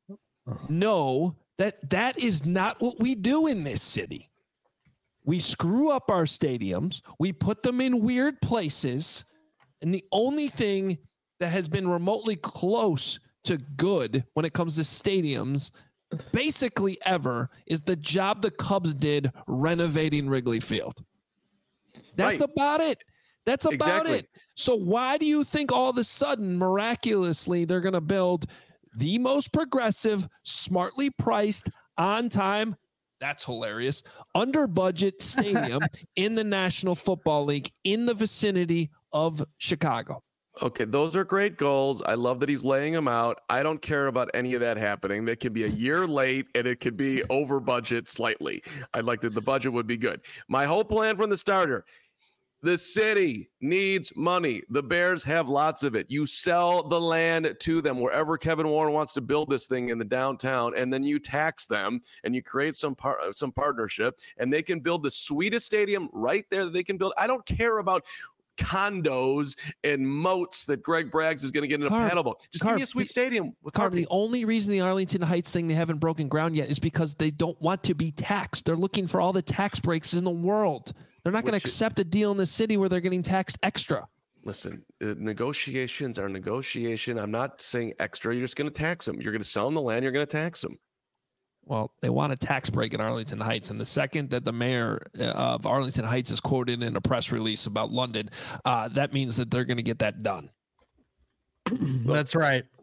know that is not what we do in this city. We screw up our stadiums. We put them in weird places. And the only thing that has been remotely close to good when it comes to stadiums basically ever is the job the Cubs did renovating Wrigley Field. That's about it. That's about it. So why do you think all of a sudden, miraculously, they're going to build the most progressive, smartly priced, on time, that's hilarious, under budget stadium in the National Football League in the vicinity of Chicago? Okay, those are great goals. I love that he's laying them out. I don't care about any of that happening. That could be a year late and it could be over budget slightly. I'd like that the budget would be good. My whole plan from the starter: the city needs money. The Bears have lots of it. You sell the land to them wherever Kevin Warren wants to build this thing in the downtown, and then you tax them and you create some partnership, and they can build the sweetest stadium right there that they can build. I don't care about condos and moats that Greg Braggs is going to get in a paddle. Just give me a sweet stadium. The only reason the Arlington Heights thing, they haven't broken ground yet, is because they don't want to be taxed. They're looking for all the tax breaks in the world. They're not going to accept a deal in the city where they're getting taxed extra. Listen, negotiations are negotiation. I'm not saying extra. You're just going to tax them. You're going to sell them the land. You're going to tax them. Well, they want a tax break in Arlington Heights. And the second that the mayor of Arlington Heights is quoted in a press release about London, that means that they're going to get that done. That's right.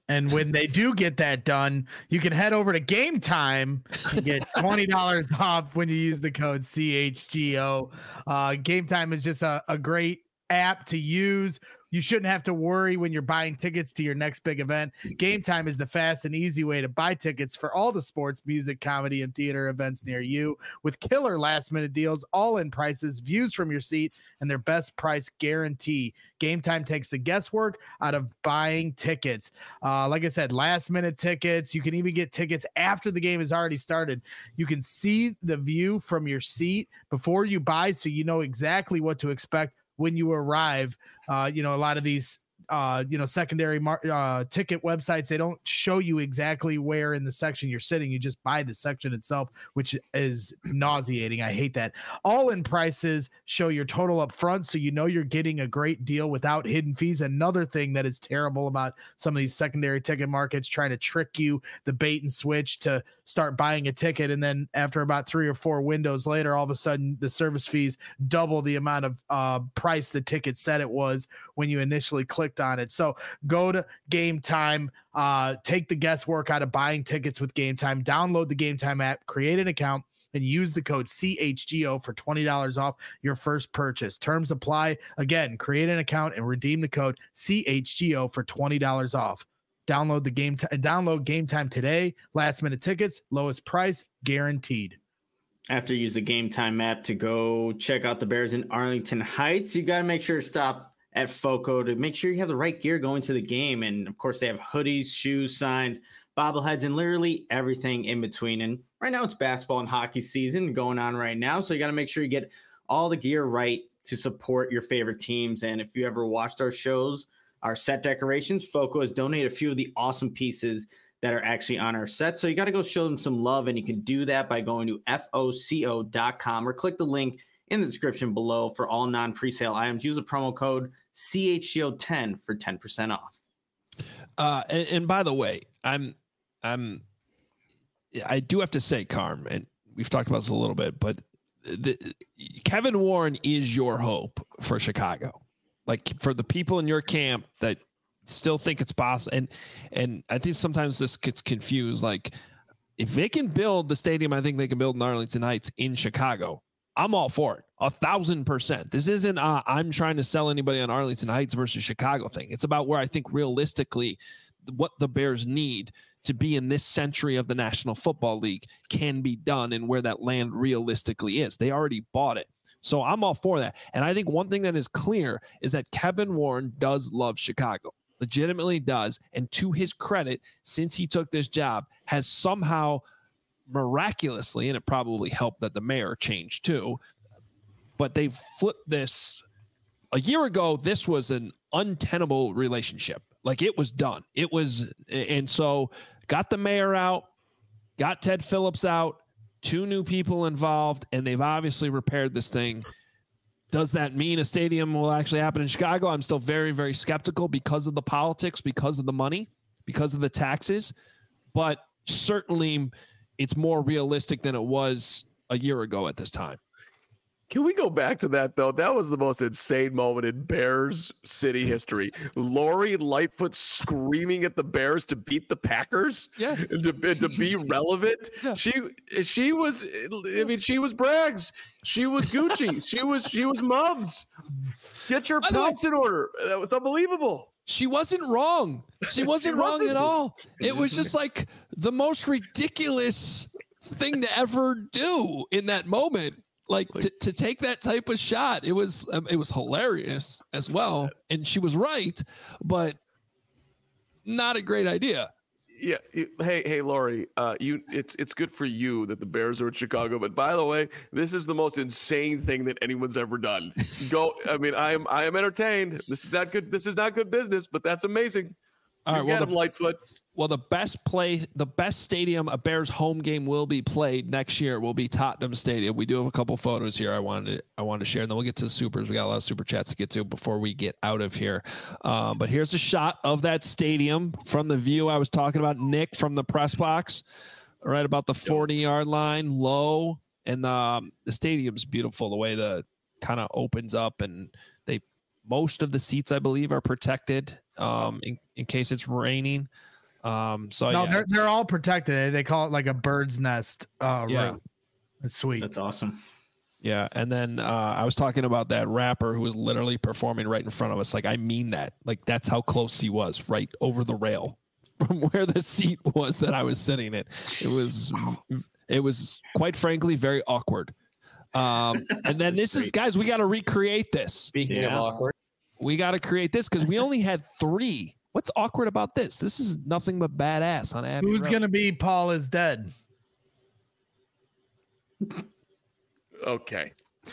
And when they do get that done, you can head over to Game Time and get $20 off when you use the code CHGO. Game Time is just a great app to use. You shouldn't have to worry when you're buying tickets to your next big event. Game Time is the fast and easy way to buy tickets for all the sports, music, comedy, and theater events near you with killer last-minute deals, all-in prices, views from your seat, and their best price guarantee. Game Time takes the guesswork out of buying tickets. Like I said, last-minute tickets. You can even get tickets after the game has already started. You can see the view from your seat before you buy, so you know exactly what to expect when you arrive. A lot of these secondary ticket websites, they don't show you exactly where in the section you're sitting. You just buy the section itself, which is nauseating. I hate that. All in prices show your total up front, so you know you're getting a great deal without hidden fees. Another thing that is terrible about some of these secondary ticket markets, trying to trick you, the bait and switch to start buying a ticket, and then after about 3 or 4 windows later, all of a sudden the service fees double the amount of price the ticket said it was when you initially clicked on it. So go to Game Time, take the guesswork out of buying tickets with Game Time, download the Game Time app, create an account, and use the code CHGO for $20 off your first purchase. Terms apply. Again, create an account and redeem the code CHGO for $20 off. Download Game Time today. Last minute tickets, lowest price guaranteed. After you use the Game Time app to go check out the Bears in Arlington Heights, you got to make sure to stop at FOCO to make sure you have the right gear going to the game. And of course, they have hoodies, shoes, signs, bobbleheads, and literally everything in between. And right now it's basketball and hockey season going on right now. So you got to make sure you get all the gear right to support your favorite teams. And if you ever watched our shows, our set decorations, FOCO has donated a few of the awesome pieces that are actually on our set. So you got to go show them some love. And you can do that by going to FOCO.com or click the link in the description below for all non-presale items. Use the promo code CHGO10 for 10% off. And by the way, I do have to say, Carm, and we've talked about this a little bit, but Kevin Warren is your hope for Chicago. Like, for the people in your camp that still think it's possible. And I think sometimes this gets confused. Like, if they can build the stadium, I think they can build in Arlington Heights in Chicago, I'm all for it. 1,000%. This isn't I'm trying to sell anybody on Arlington Heights versus Chicago thing. It's about where I think realistically what the Bears need to be in this century of the National Football League can be done and where that land realistically is. They already bought it. So I'm all for that. And I think one thing that is clear is that Kevin Warren does love Chicago. Legitimately does. And to his credit, since he took this job, has somehow miraculously, and it probably helped that the mayor changed too, but they flipped this. A year ago, this was an untenable relationship. Like, it was done. It was, and so got the mayor out, got Ted Phillips out, 2 new people involved, and they've obviously repaired this thing. Does that mean a stadium will actually happen in Chicago? I'm still very, very skeptical because of the politics, because of the money, because of the taxes, but certainly it's more realistic than it was a year ago at this time. Can we go back to that, though? That was the most insane moment in Bears city history. Lori Lightfoot screaming at the Bears to beat the Packers, and to be relevant. Yeah. She was, I mean, she was Braggs. She was Gucci. she was Mubs. Get your house in order. That was unbelievable. She wasn't wrong. She wasn't wrong at all. It was just like the most ridiculous thing to ever do in that moment. Like to take that type of shot, it was hilarious as well, and she was right, but not a great idea. Yeah. Hey, Lori. It's good for you that the Bears are in Chicago, but by the way, this is the most insane thing that anyone's ever done. I mean, I am entertained. This is not good. This is not good business, but that's amazing. All right, get him, Lightfoot. Well, the best stadium a Bears home game will be played next year will be Tottenham Stadium. We do have a couple photos here I wanted to share, and then we'll get to the supers. We got a lot of super chats to get to before we get out of here. But here's a shot of that stadium from the view I was talking about, Nick, from the press box, right about the 40-yard line, low, and the stadium's beautiful. The way the kind of opens up, and most of the seats, I believe, are protected in case it's raining. So no, yeah, they're all protected. They call it like a bird's nest. Yeah. Room. It's sweet. That's awesome. yeah. And then I was talking about that rapper who was literally performing right in front of us. Like, I mean that. Like, that's how close he was, right over the rail from where the seat was that I was sitting in. It was quite frankly very awkward. And then this is, guys, we got to recreate this. Speaking of awkward, We got to create this because we only had 3. What's awkward about this? This is nothing but badass on Abbey Who's Road. gonna be Paul is dead? Okay.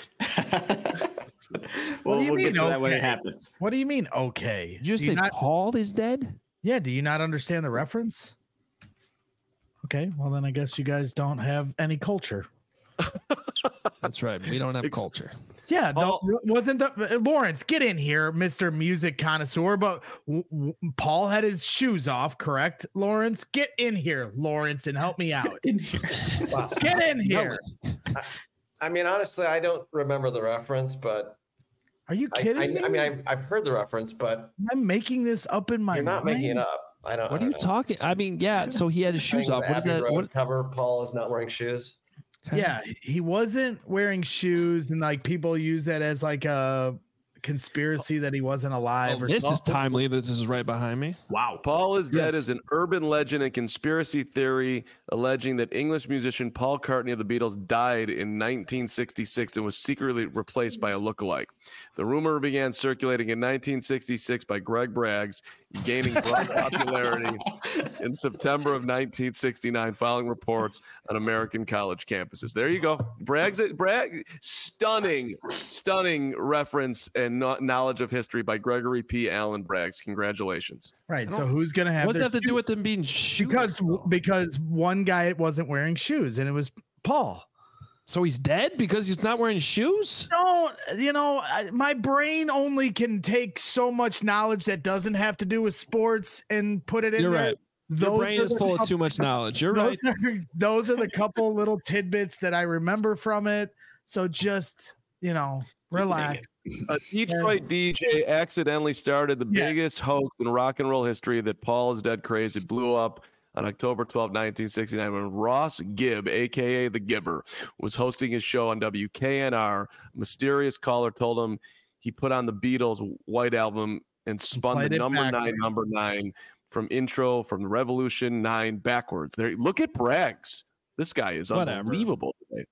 Well, do you we'll get mean, to that when it okay? happens. What do you mean? Okay. Did you Do say not- Paul is dead? Yeah. Do you not understand the reference? Okay. Well, then I guess you guys don't have any culture. That's right. We don't have culture. Yeah. Paul- Wasn't the Lawrence? Get in here, Mr. Music Connoisseur. But Paul had his shoes off, correct? Lawrence, get in here, Lawrence, and help me out. wow. Get in here. I mean, honestly, I don't remember the reference, but Are you kidding me? I mean, I've heard the reference, but I'm making this up in my you're not mind. making it up. I don't. What I are you don't know. talking? I mean, yeah. So he had his shoes Saying off. What is Abbey that? Road What? cover? Paul is not wearing shoes. Yeah, he wasn't wearing shoes, and like people use that as like a conspiracy that he wasn't alive. Oh, or this is something. timely. This is right behind me. Wow. Paul is Dead Yes. is an urban legend and conspiracy theory alleging that English musician Paul McCartney of the Beatles died in 1966 and was secretly replaced by a lookalike. The rumor began circulating in 1966 by Greg Braggs, gaining broad popularity in September of 1969 following reports on American college campuses. There you go. Braggs, stunning reference and knowledge of history by Gregory P. Allen Braggs. Congratulations. Right. So who's gonna have? What's their that have to do shoes? with them being shoes? Because one guy wasn't wearing shoes, and it was Paul. So he's dead because he's not wearing shoes? Don't my brain only can take so much knowledge that doesn't have to do with sports and put it in You're there. right. Your brain is full of too much knowledge. You're right. Those are the couple little tidbits that I remember from it. So just relax. A Detroit DJ accidentally started the Yeah. biggest hoax in rock and roll history that Paul is Dead craze. It blew up on October 12, 1969, when Ross Gibb, a.k.a. The Gibber, was hosting his show on WKNR. A mysterious caller told him he put on the Beatles' White Album and spun Played the it number 9 from the Revolution 9 backwards. There, look at Braggs. This guy is Whatever. unbelievable today.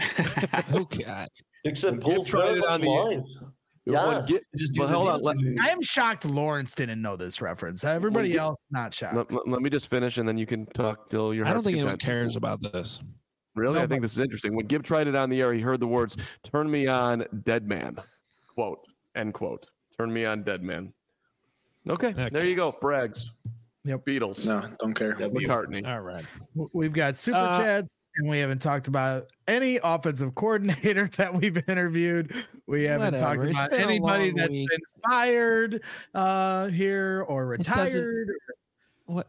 Okay. Except Gibb Paul tried it on the lines. Yeah. Well, hold on. I am shocked Lawrence didn't know this reference. Everybody else not shocked. Let me just finish, and then you can talk till your I don't heart's think anyone content. cares about this. Really? No, I think this is interesting. When Gibb tried it on the air, he heard the words, "Turn me on, dead man." Quote, end quote. Turn me on, dead man. Okay, there you go. Braggs. Yep. Beatles. No, don't care. McCartney. All right. We've got super chats, and we haven't talked about any offensive coordinator that we've interviewed. We haven't Whatever. talked It's about been a anybody long that's week. been fired here or It doesn't- retired. What?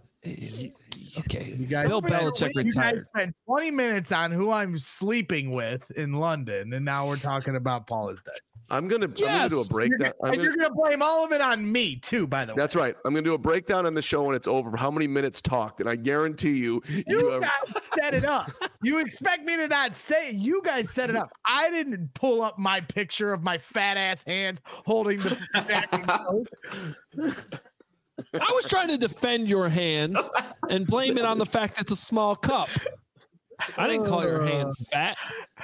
Okay. You guys, Bill Belichick you guys retired. spent 20 minutes on who I'm sleeping with in London, and now we're talking about Paul is dead. I'm gonna do a Yes. breakdown. And you're gonna blame all of it on me too, by the way. That's right. I'm gonna do a breakdown on the show when it's over. How many minutes talked? And I guarantee you, You guys set it up. You expect me to not say it. You guys set it up. I didn't pull up my picture of my fat ass hands holding the fucking Coke. I was trying to defend your hands and blame it on the fact it's a small cup. I didn't call your hand fat.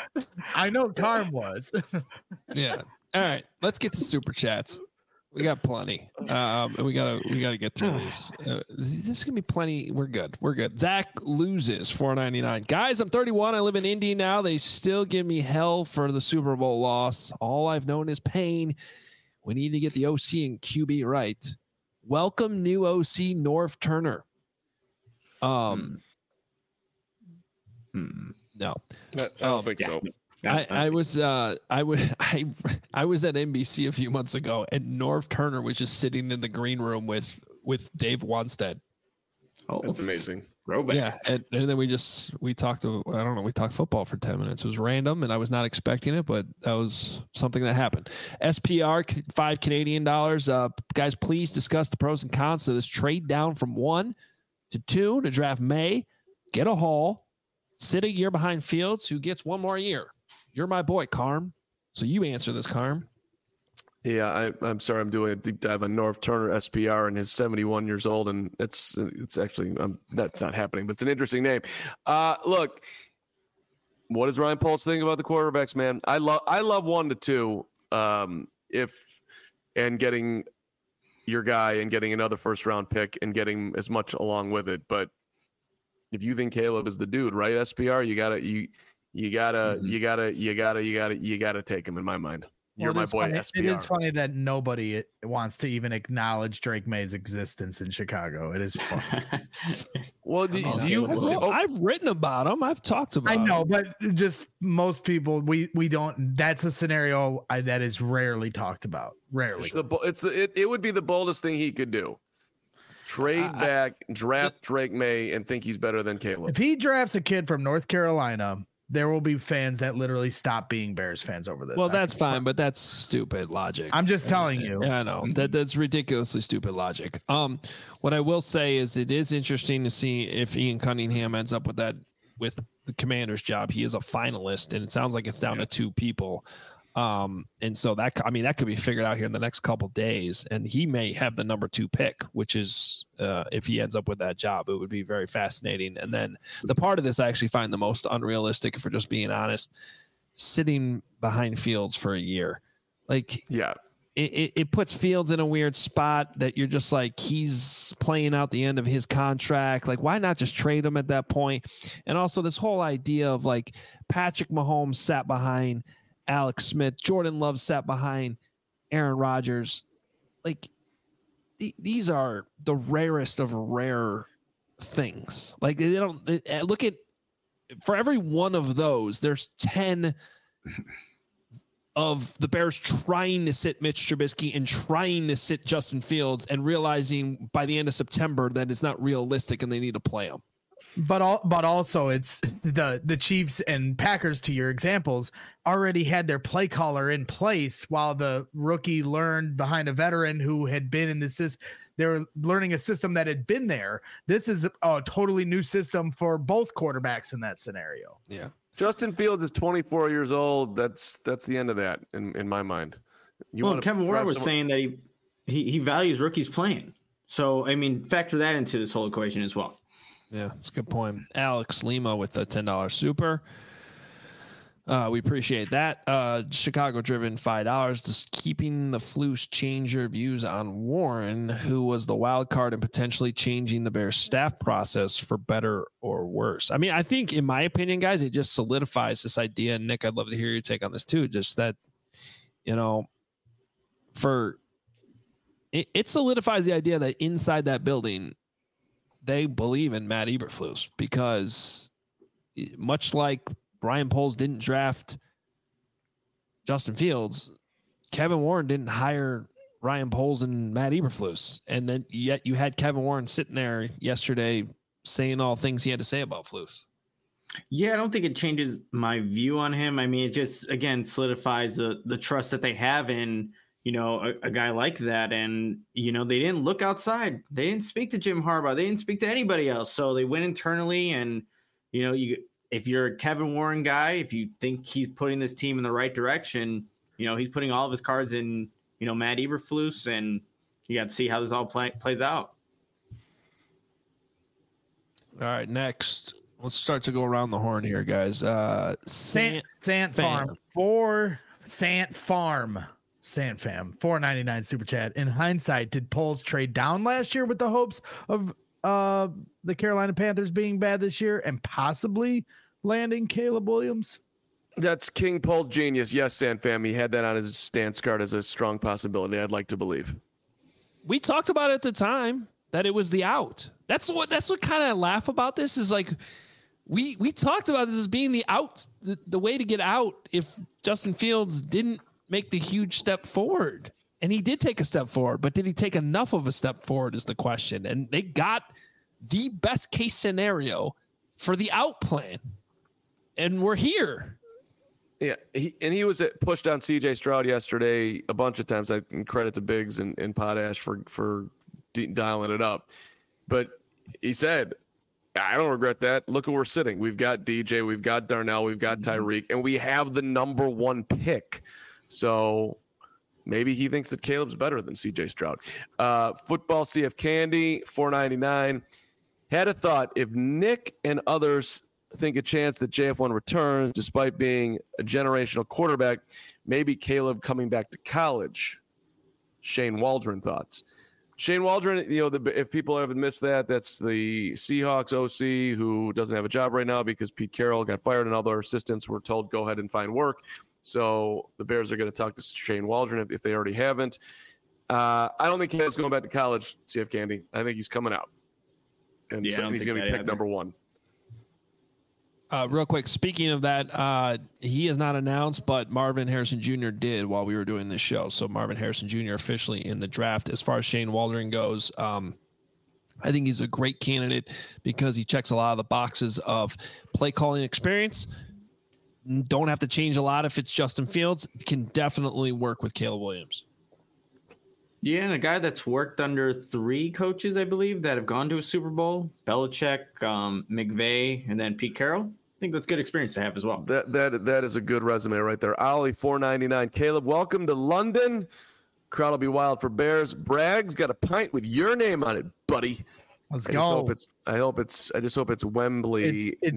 I know Carm was. Yeah. All right. Let's get to super chats. We got plenty. And we gotta get through these. There's gonna be plenty. We're good. Zach loses $4.99. Guys, I'm 31. I live in Indy now. They still give me hell for the Super Bowl loss. All I've known is pain. We need to get the OC and QB right. Welcome, new OC Norv Turner. No. I don't think so. I was at NBC a few months ago, and Norv Turner was just sitting in the green room with Dave Wanstead. Oh, That's amazing. throwback. Yeah, and then we talked football for 10 minutes. It was random, and I was not expecting it, but that was something that happened. SPR, $5 Canadian. Guys, please discuss the pros and cons of this trade down from 1 to 2 to draft May, get a haul, sit a year behind Fields, who gets one more year. You're my boy, Carm. So you answer this, Carm. Yeah, I'm sorry. I'm doing a deep dive on Norv Turner, SPR, and his 71 years old, and it's actually that's not happening, but it's an interesting name. Look, what does Ryan Poles think about the quarterbacks, man? I love 1 to 2. And getting your guy and getting another first round pick and getting as much along with it, but if you think Caleb is the dude, right? SPR, you gotta take him. In my mind, you're my boy. Funny. SPR. It is funny that nobody wants to even acknowledge Drake May's existence in Chicago. It is funny. Well, do you? I've written about him. I've talked about. I know, him. but just most people, we don't. That's a scenario that is rarely talked about. Rarely. It would be the boldest thing he could do. Trade back, draft Drake May, and think he's better than Caleb. If he drafts a kid from North Carolina, there will be fans that literally stop being Bears fans over this. Well, that's fine, but that's stupid logic. I'm just telling you. Yeah, I know that's ridiculously stupid logic. What I will say is it is interesting to see if Ian Cunningham ends up with the Commander's job. He is a finalist, and it sounds like it's down to 2 people. And so that could be figured out here in the next couple days, and he may have the number 2 pick, which is if he ends up with that job, it would be very fascinating. And then the part of this I actually find the most unrealistic, if we're just being honest, sitting behind Fields for a year. Like, yeah, it puts Fields in a weird spot that you're just like, he's playing out the end of his contract. Like, why not just trade him at that point? And also this whole idea of like Patrick Mahomes sat behind Alex Smith, Jordan Love sat behind Aaron Rodgers. Like, these are the rarest of rare things. Like, look at, for every one of those, there's 10 of the Bears trying to sit Mitch Trubisky and trying to sit Justin Fields and realizing by the end of September that it's not realistic and they need to play him. But also it's the Chiefs and Packers, to your examples, already had their play caller in place while the rookie learned behind a veteran who had been in the system. They were learning a system that had been there. This is a totally new system for both quarterbacks in that scenario. Yeah. Justin Fields is 24 years old. That's the end of that in my mind. Kevin Warren was saying that he values rookies playing. So, I mean, factor that into this whole equation as well. Yeah, that's a good point. Alex Lima with the $10 super. We appreciate that. Chicago driven $5. Just keeping the Flus change your views on Warren, who was the wild card and potentially changing the Bears staff process for better or worse. I mean, I think, in my opinion, guys, it just solidifies this idea. And Nick, I'd love to hear your take on this too. Just that, it solidifies the idea that inside that building, they believe in Matt Eberflus, because much like Ryan Poles didn't draft Justin Fields, Kevin Warren didn't hire Ryan Poles and Matt Eberflus. And then yet you had Kevin Warren sitting there yesterday saying all things he had to say about Flus. Yeah, I don't think it changes my view on him. I mean, it just, again, solidifies the trust that they have in, a guy like that. And, they didn't look outside. They didn't speak to Jim Harbaugh. They didn't speak to anybody else. So they went internally, and, if you're a Kevin Warren guy, if you think he's putting this team in the right direction, he's putting all of his cards in, Matt Eberflus, and you got to see how this all plays out. All right, next, let's start to go around the horn here, guys. Sant Farm for Sant Farm. Sant Fam, $4.99 super chat. In hindsight, did Poles trade down last year with the hopes of the Carolina Panthers being bad this year and possibly landing Caleb Williams? That's King Poles genius. Yes, Sant Fam. He had that on his stance card as a strong possibility, I'd like to believe. We talked about it at the time that it was the out. That's what kind of laugh about this is, like, we talked about this as being the out, the way to get out if Justin Fields didn't make the huge step forward. And he did take a step forward, but did he take enough of a step forward is the question. And they got the best case scenario for the out plan. And we're here. Yeah, he was pushed on CJ Stroud yesterday a bunch of times. I can credit to Biggs and Potash for dialing it up. But he said, I don't regret that. Look where we're sitting. We've got DJ, we've got Darnell, we've got Tyreek, and we have the number 1 pick. So maybe he thinks that Caleb's better than CJ Stroud. Football CF Candy, $4.99. Had a thought, if Nick and others think a chance that JF1 returns despite being a generational quarterback, maybe Caleb coming back to college. Shane Waldron thoughts. Shane Waldron, if people haven't missed that, that's the Seahawks OC who doesn't have a job right now because Pete Carroll got fired and all their assistants were told go ahead and find work. So the Bears are going to talk to Shane Waldron if they already haven't. I don't think Caleb's going back to college, CF Candy. I think he's coming out. And he's going to be picked number 1. Real quick, speaking of that, he is not announced, but Marvin Harrison Jr. did while we were doing this show. So Marvin Harrison Jr. officially in the draft. As far as Shane Waldron goes, I think he's a great candidate because he checks a lot of the boxes of play calling experience. Don't have to change a lot if it's Justin Fields. Can definitely work with Caleb Williams. Yeah, and a guy that's worked under 3 coaches, I believe, that have gone to a Super Bowl: Belichick, McVay, and then Pete Carroll. I think that's good experience to have as well. That is a good resume right there. Ollie, $4.99. Caleb, welcome to London. Crowd will be wild for Bears. Bragg's got a pint with your name on it, buddy. Let's go. I just hope it's Wembley. It's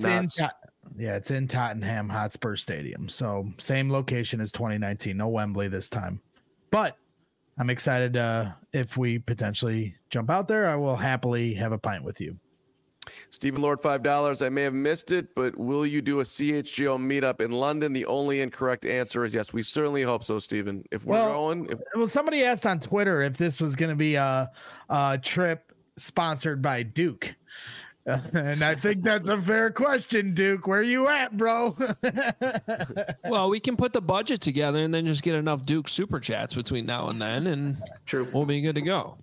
in Tottenham Hotspur Stadium. So same location as 2019. No Wembley this time. But I'm excited. If we potentially jump out there, I will happily have a pint with you. Stephen Lord, $5. I may have missed it, but will you do a CHGO meetup in London? The only incorrect answer is yes. We certainly hope so, Stephen. Well, somebody asked on Twitter if this was going to be a trip sponsored by Duke. And I think that's a fair question, Duke. Where you at, bro? Well, we can put the budget together and then just get enough Duke super chats between now and then, and we'll be good to go.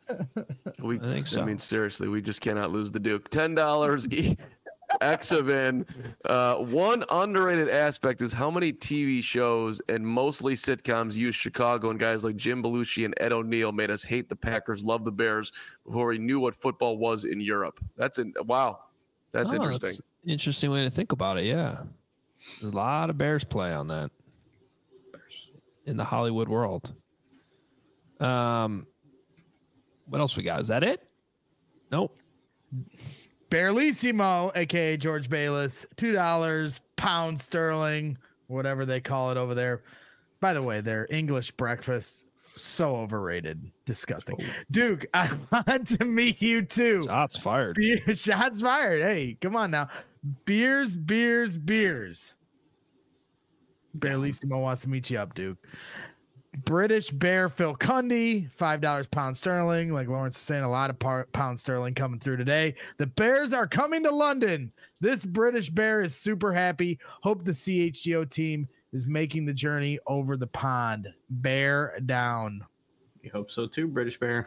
I think so. I mean, seriously, we just cannot lose the Duke. $10 Exavin. One underrated aspect is how many TV shows and mostly sitcoms use Chicago, and guys like Jim Belushi and Ed O'Neill made us hate the Packers, love the Bears before we knew what football was in Europe. Wow. That's interesting. That's an interesting way to think about it. Yeah. There's a lot of Bears play on that in the Hollywood world. What else we got? Is that it? Nope. Bearlissimo, aka George Bayless, $2, pound sterling, whatever they call it over there. By the way, their English breakfast, so overrated, disgusting. Oh. Duke, I want to meet you too. Shots fired. Shots fired. Hey, come on now. Beers. Bearlissimo wants to meet you up, Duke. British Bear Phil Cundy, $5 pound sterling. Like Lawrence is saying, a lot of pound sterling coming through today. The Bears are coming to London. This British Bear is super happy. Hope the CHGO team is making the journey over the pond. Bear down. We hope so too, British Bear.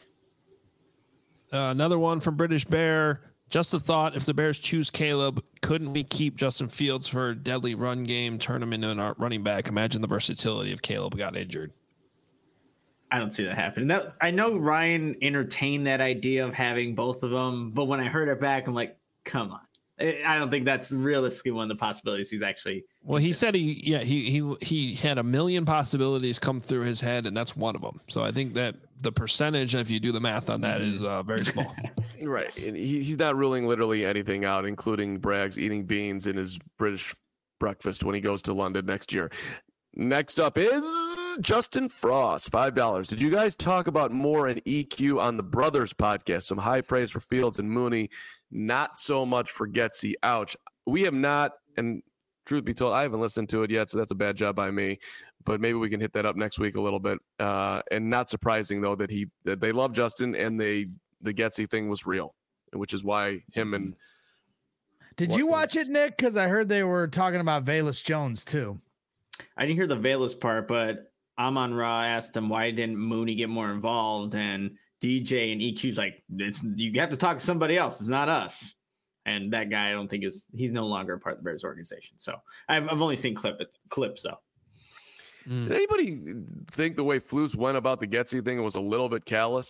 Another one from British Bear. Just a thought, if the Bears choose Caleb, couldn't we keep Justin Fields for a deadly run game, turn him into an running back? Imagine the versatility if Caleb got injured. I don't see that happening. I know Ryan entertained that idea of having both of them, but when I heard it back, I'm like, come on. I don't think that's realistically one of the possibilities he's actually. Well, he said he had a million possibilities come through his head, and that's one of them. So I think that the percentage, if you do the math on that, is very small. Right. And he's not ruling literally anything out, including Braggs eating beans in his British breakfast when he goes to London next year. Next up is Justin Frost, $5. Did you guys talk about more in EQ on the Brothers podcast? Some high praise for Fields and Mooney, not so much for Getsy. Ouch. We have not, and truth be told, I haven't listened to it yet, so that's a bad job by me. But maybe we can hit that up next week a little bit. And not surprising though that they love Justin and the Getsy thing was real, which is why him and. Did you watch it, Nick? Because I heard they were talking about Velus Jones too. I didn't hear the Velus part, but Amon Ra asked him why didn't Mooney get more involved, and DJ and EQ's like, you have to talk to somebody else. It's not us. And that guy, I don't think he's no longer a part of the Bears organization. So I've only seen clips though. Did anybody think the way Flus went about the Getsy thing was a little bit callous?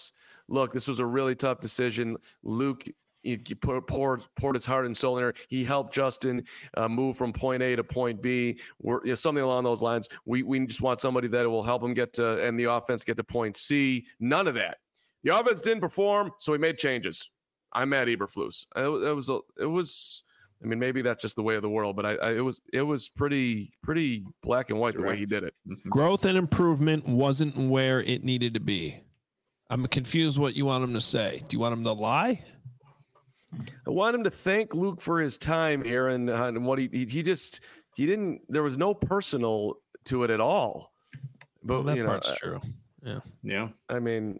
look, this was a really tough decision. Luke, he poured his heart and soul in there. He helped Justin move from point A to point B, or something along those lines. We just want somebody that will help him get to, and the offense get to point C. None of that. The offense didn't perform, so we made changes. I'm Matt Eberflus. It was. I mean, maybe that's just the way of the world, but it was pretty black and white the way he did it. Growth and improvement wasn't where it needed to be. I'm confused what you want him to say. Do you want him to lie? I want him to thank Luke for his time here and what he didn't. There was no personal to it at all. But well, that part's true. Yeah. I mean,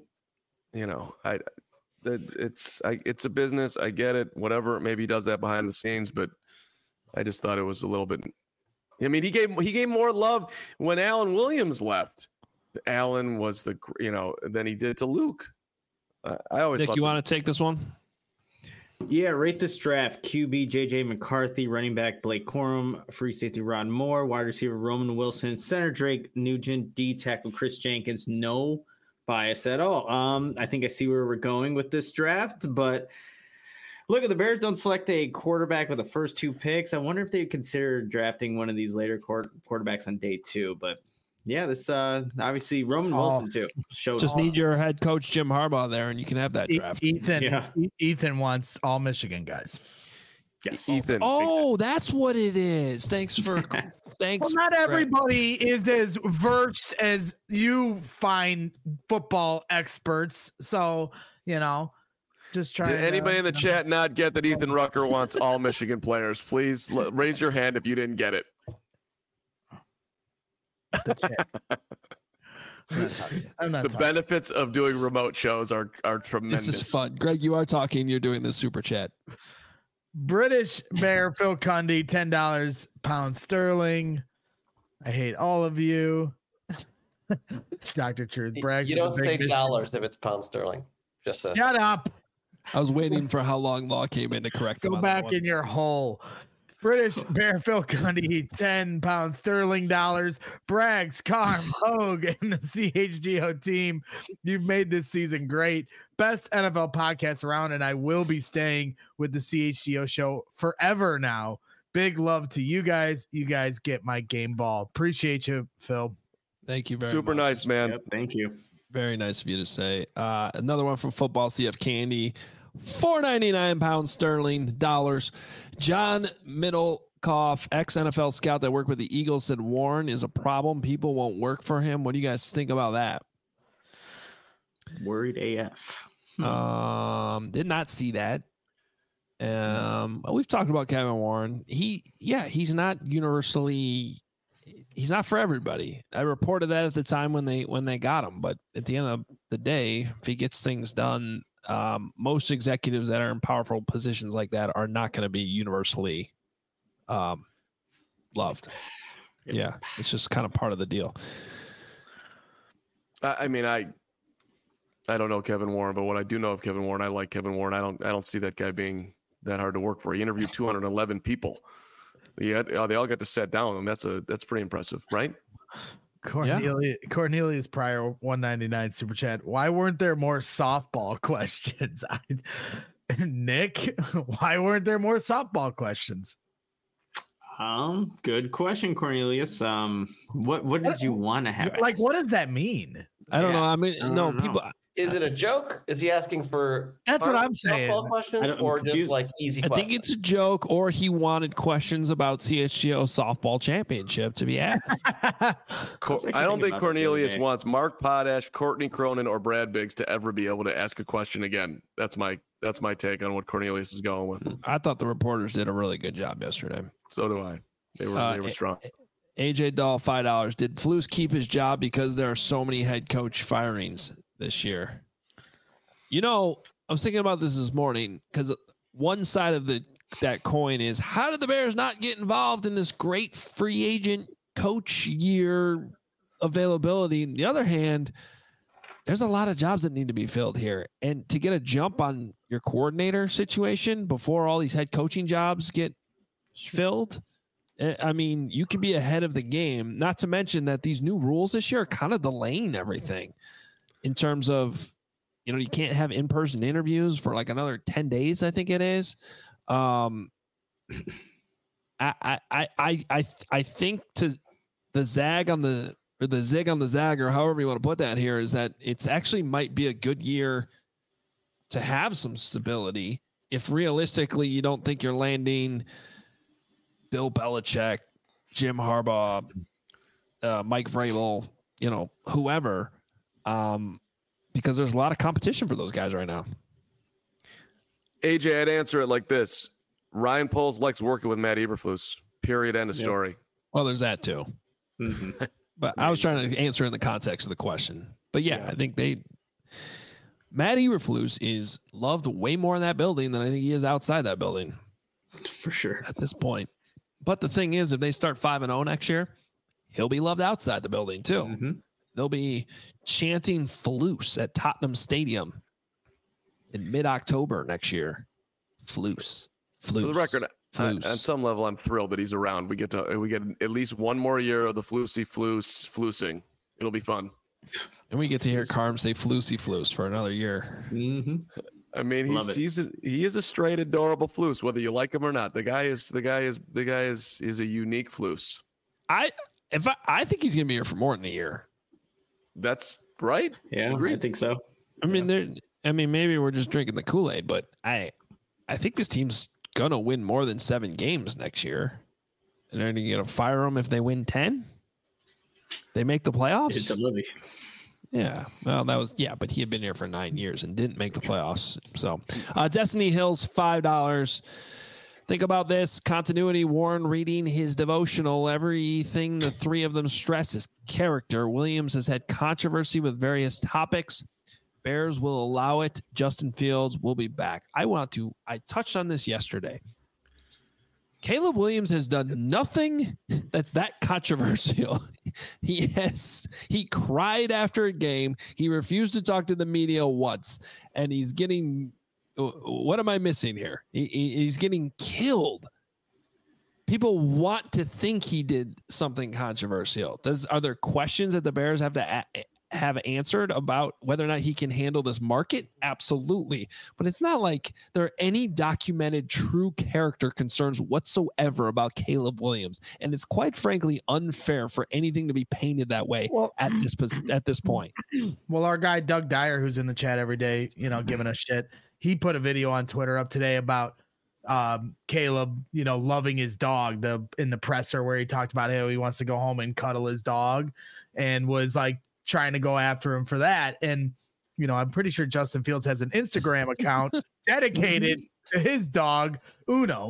it's a business. I get it. Whatever. Maybe he does that behind the scenes, but I just thought it was a little bit. I mean, he gave more love when Alan Williams left. Alan was than he did to Luke. I always. Nick, you want to take this one? Yeah, rate this draft. QB JJ McCarthy, running back Blake Corum, free safety Ron Moore, wide receiver Roman Wilson, center Drake Nugent, D tackle Chris Jenkins. No bias at all. I think I see where we're going with this draft, but look, if the Bears don't select a quarterback with the first 2 picks, I wonder if they consider drafting one of these later quarterbacks on day 2. But yeah, this obviously Roman Wilson too showed. Just need your head coach Jim Harbaugh there, and you can have that draft. Ethan wants all Michigan guys. Yes, Ethan. Oh, that's what it is. Thanks. Well, not everybody is as versed as you find football experts. So, just try. Did anybody in the chat not get that Ethan Rucker wants all Michigan players? Please raise your hand if you didn't get it. I'm not the talking. benefits of doing remote shows are tremendous. This is fun. Greg, you are talking. You're doing the super chat. British Bear Phil Cundy, $10 pound sterling. I hate all of you. Dr. Truth brags. You don't say dollars if it's pound sterling. Just shut up. I was waiting for how long Law came in to correct Go him. back in your hole. British Bear Phil Cundy, 10 pound sterling dollars. Braggs, Carm, Hogue, and the CHGO team. You've made this season great. Best NFL podcast around, and I will be staying with the CHGO show forever now. Big love to you guys. You guys get my game ball. Appreciate you, Phil. Thank you very Super much. nice, man. Yep, thank you. Very nice of you to say. Another one from Football CF Candy. $4.99 pound sterling dollars. John Middlecoff, ex-NFL scout that worked with the Eagles, said Warren is a problem. People won't work for him. What do you guys think about that? Worried AF. Did not see that. We've talked about Kevin Warren. He's not universally. He's not for everybody. I reported that at the time when they got him, but at the end of the day, if he gets things done, most executives that are in powerful positions like that are not going to be universally loved. Yeah, it's just kind of part of the deal. I mean, I don't know Kevin Warren, but what I do know of Kevin Warren, I like Kevin Warren. I don't see that guy being that hard to work for. He interviewed 211 people. They all got to sit down with him. That's pretty impressive, right? Cornelius Pryor, 199 super chat. Why weren't there more softball questions? Nick, why weren't there more softball questions? Good question, Cornelius. What did you want to have? Like, what does that mean? I don't know. I mean, no, people. Is it a joke? Is he asking for? That's what I'm saying. Questions or just like easy questions? I think it's a joke, or he wanted questions about CHGO softball championship to be asked. I don't think Cornelius wants Mark Potash, Courtney Cronin, or Brad Biggs to ever be able to ask a question again. That's my take on what Cornelius is going with. I thought the reporters did a really good job yesterday. So do I. They were strong. AJ Dahl, $5. Did Flus keep his job because there are so many head coach firings this year? I was thinking about this morning because one side of that coin is, how did the Bears not get involved in this great free agent coach year availability? On the other hand, there's a lot of jobs that need to be filled here. And to get a jump on your coordinator situation before all these head coaching jobs get filled, I mean, you can be ahead of the game, not to mention that these new rules this year are kind of delaying everything in terms of, you can't have in-person interviews for like another 10 days, I think it is. I think to the zag on the zig on the zag, or however you want to put that here, is that it's actually might be a good year to have some stability. If realistically you don't think you're landing Bill Belichick, Jim Harbaugh, Mike Vrabel, whoever, because there's a lot of competition for those guys right now. AJ, I'd answer it like this. Ryan Poles likes working with Matt Eberflus. Period. End of story. Well, there's that too. Mm-hmm. But I was trying to answer in the context of the question. But yeah, I think Matt Eberflus is loved way more in that building than I think he is outside that building. For sure. At this point. But the thing is, if they start 5-0 next year, he'll be loved outside the building too. Mm-hmm. They'll be chanting Flus at Tottenham Stadium in mid-October next year. Flus. For the record, on some level, I'm thrilled that he's around. We get at least one more year of the flusing. It'll be fun. And we get to hear Carm say Flus for another year. Mm-hmm. I mean, he is a straight, adorable Flus, whether you like him or not. The guy is a unique Flus. I think he's gonna be here for more than a year. That's right. Yeah, agreed. I think so. I mean, maybe we're just drinking the Kool-Aid, but I think this team's gonna win more than 7 games next year, and they're gonna fire them if they win 10. They make the playoffs. It's a living. Yeah, well, but he had been here for 9 years and didn't make the playoffs. So, Destiny Hills, $5. Think about this. Continuity, Warren reading his devotional. Everything the three of them stress is character. Williams has had controversy with various topics. Bears will allow it. Justin Fields will be back. I touched on this yesterday. Caleb Williams has done nothing that's that controversial. He cried after a game. He refused to talk to the media once, and he's getting, what am I missing here? He's getting killed. People want to think he did something controversial. Are there questions that the Bears have to have answered about whether or not he can handle this market? Absolutely. But it's not like there are any documented true character concerns whatsoever about Caleb Williams. And it's quite frankly unfair for anything to be painted that way at this point. Well, our guy, Doug Dyer, who's in the chat every day, giving us shit. He put a video on Twitter up today about Caleb, loving his dog in the presser where he talked about how he wants to go home and cuddle his dog and was like, trying to go after him for that. And, I'm pretty sure Justin Fields has an Instagram account dedicated to his dog, Uno.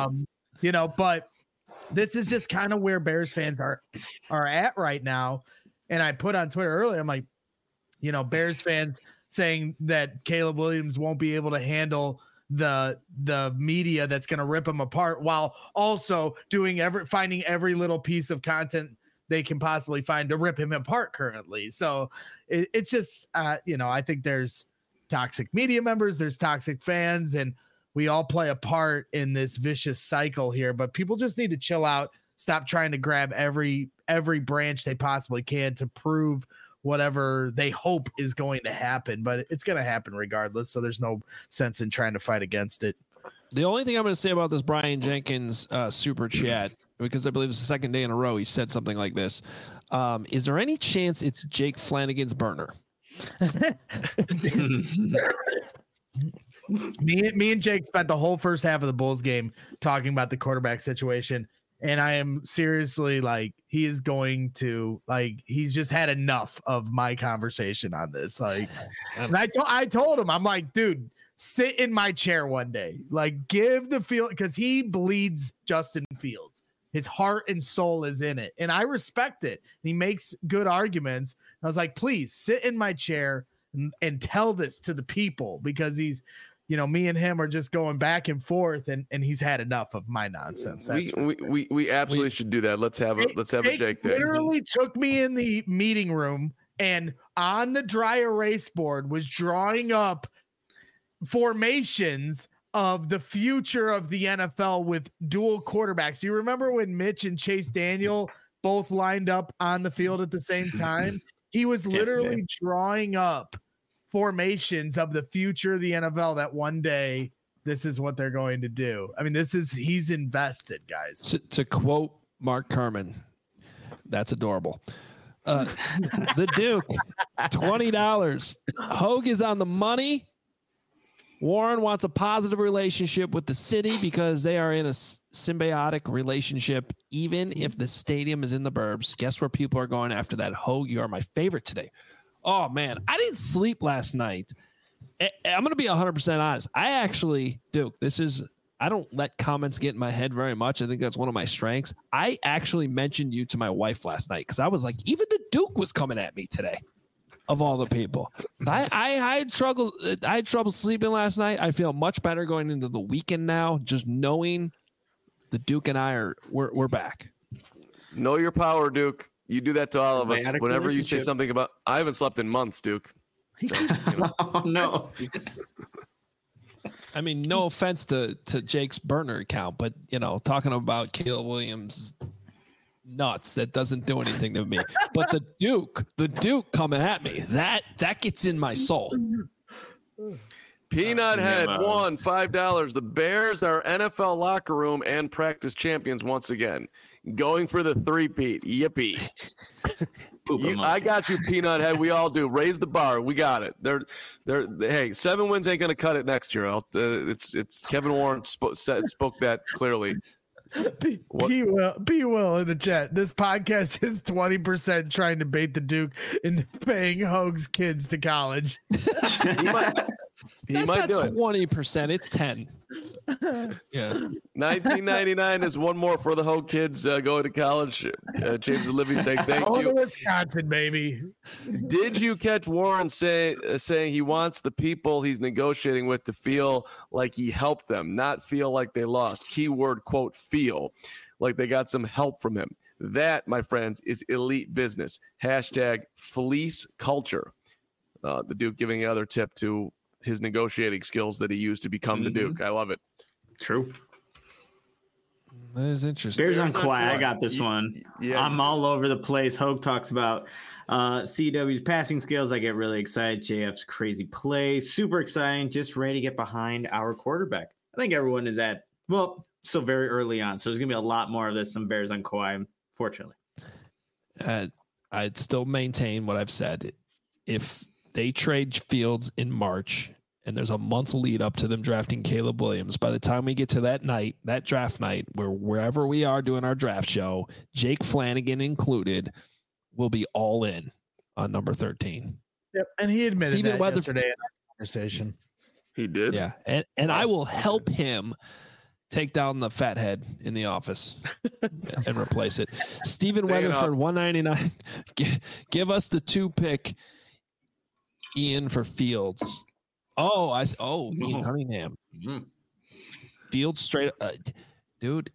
But this is just kind of where Bears fans are at right now. And I put on Twitter earlier, I'm like, Bears fans saying that Caleb Williams won't be able to handle the media that's going to rip him apart while also finding every little piece of content they can possibly find to rip him apart currently. So it's just, I think there's toxic media members, there's toxic fans, and we all play a part in this vicious cycle here, but people just need to chill out, stop trying to grab every branch they possibly can to prove whatever they hope is going to happen, but it's going to happen regardless. So there's no sense in trying to fight against it. The only thing I'm going to say about this Brian Jenkins super chat, because I believe it's the second day in a row he said something like this. Is there any chance it's Jake Flanagan's burner? Me and Jake spent the whole first half of the Bulls game talking about the quarterback situation. And I am seriously he's just had enough of my conversation on this. And I told him, I'm like, dude, sit in my chair one day, give the field, because he bleeds Justin Fields. His heart and soul is in it. And I respect it. He makes good arguments. I was like, please sit in my chair and tell this to the people, because he's, me and him are just going back and forth, and he's had enough of my nonsense. We absolutely should do that. Let's have a Jake day. Literally took me in the meeting room and on the dry erase board was drawing up formations of the future of the NFL with dual quarterbacks. Do you remember when Mitch and Chase Daniel both lined up on the field at the same time? He was literally drawing up formations of the future of the NFL that one day this is what they're going to do. I mean, he's invested, guys. To quote Mark Kerman, that's adorable. The Duke, $20. Hogue is on the money. Warren wants a positive relationship with the city because they are in a symbiotic relationship, even if the stadium is in the burbs. Guess where people are going after that? Hogue, you are my favorite today. Oh, man, I didn't sleep last night. I'm going to be 100% honest. I actually, Duke, I don't let comments get in my head very much. I think that's one of my strengths. I actually mentioned you to my wife last night because I was like, even the Duke was coming at me today. Of all the people, I had trouble sleeping last night. I feel much better going into the weekend now, just knowing the Duke and I we're back. Know your power, Duke. You do that to all of us. Whenever you say something about, I haven't slept in months, Duke. So, Oh, no. I mean, no offense to Jake's burner account, but talking about Caleb Williams nuts, that doesn't do anything to me. But the Duke coming at me, that gets in my soul. Peanut Head won $5. The Bears are NFL locker room and practice champions once again, going for the three-peat. Yippee! I got you, Peanut Head. We all do. Raise the bar. We got it. Hey, 7 wins ain't gonna cut it next year. It's Kevin Warren spoke that clearly. Be Will in the chat. This podcast is 20% trying to bait the Duke into paying Hogue's kids to college. He might do it. 20%. It's 10. Yeah. 1999 is one more for the Hogue kids going to college. James and Libby saying thank you. Wisconsin, baby. Did you catch Warren saying he wants the people he's negotiating with to feel like he helped them, not feel like they lost? Keyword, quote, feel like they got some help from him. That, my friends, is elite business. Hashtag fleece culture. The Duke giving the other tip to his negotiating skills that he used to become the Duke. I love it. True. That is interesting. Bears on Quiet. I got this one. Yeah. I'm all over the place. Hogue talks about CW's passing skills. I get really excited. JF's crazy play. Super exciting. Just ready to get behind our quarterback. I think everyone is still very early on. So there's going to be a lot more of this on Bears on Quiet, fortunately. I'd still maintain what I've said. If they trade Fields in March, and there's a month lead up to them drafting Caleb Williams. By the time we get to that night, that draft night, wherever we are doing our draft show, Jake Flanagan included, will be all in on number 13. Yep, and he admitted Stephen that yesterday in our conversation. He did? Yeah, and I will help him take down the fat head in the office and replace it. Stephen Weatherford, $199. Give us the 2-pick Ian for Fields. Ian Cunningham. Mm-hmm. Fields straight dude.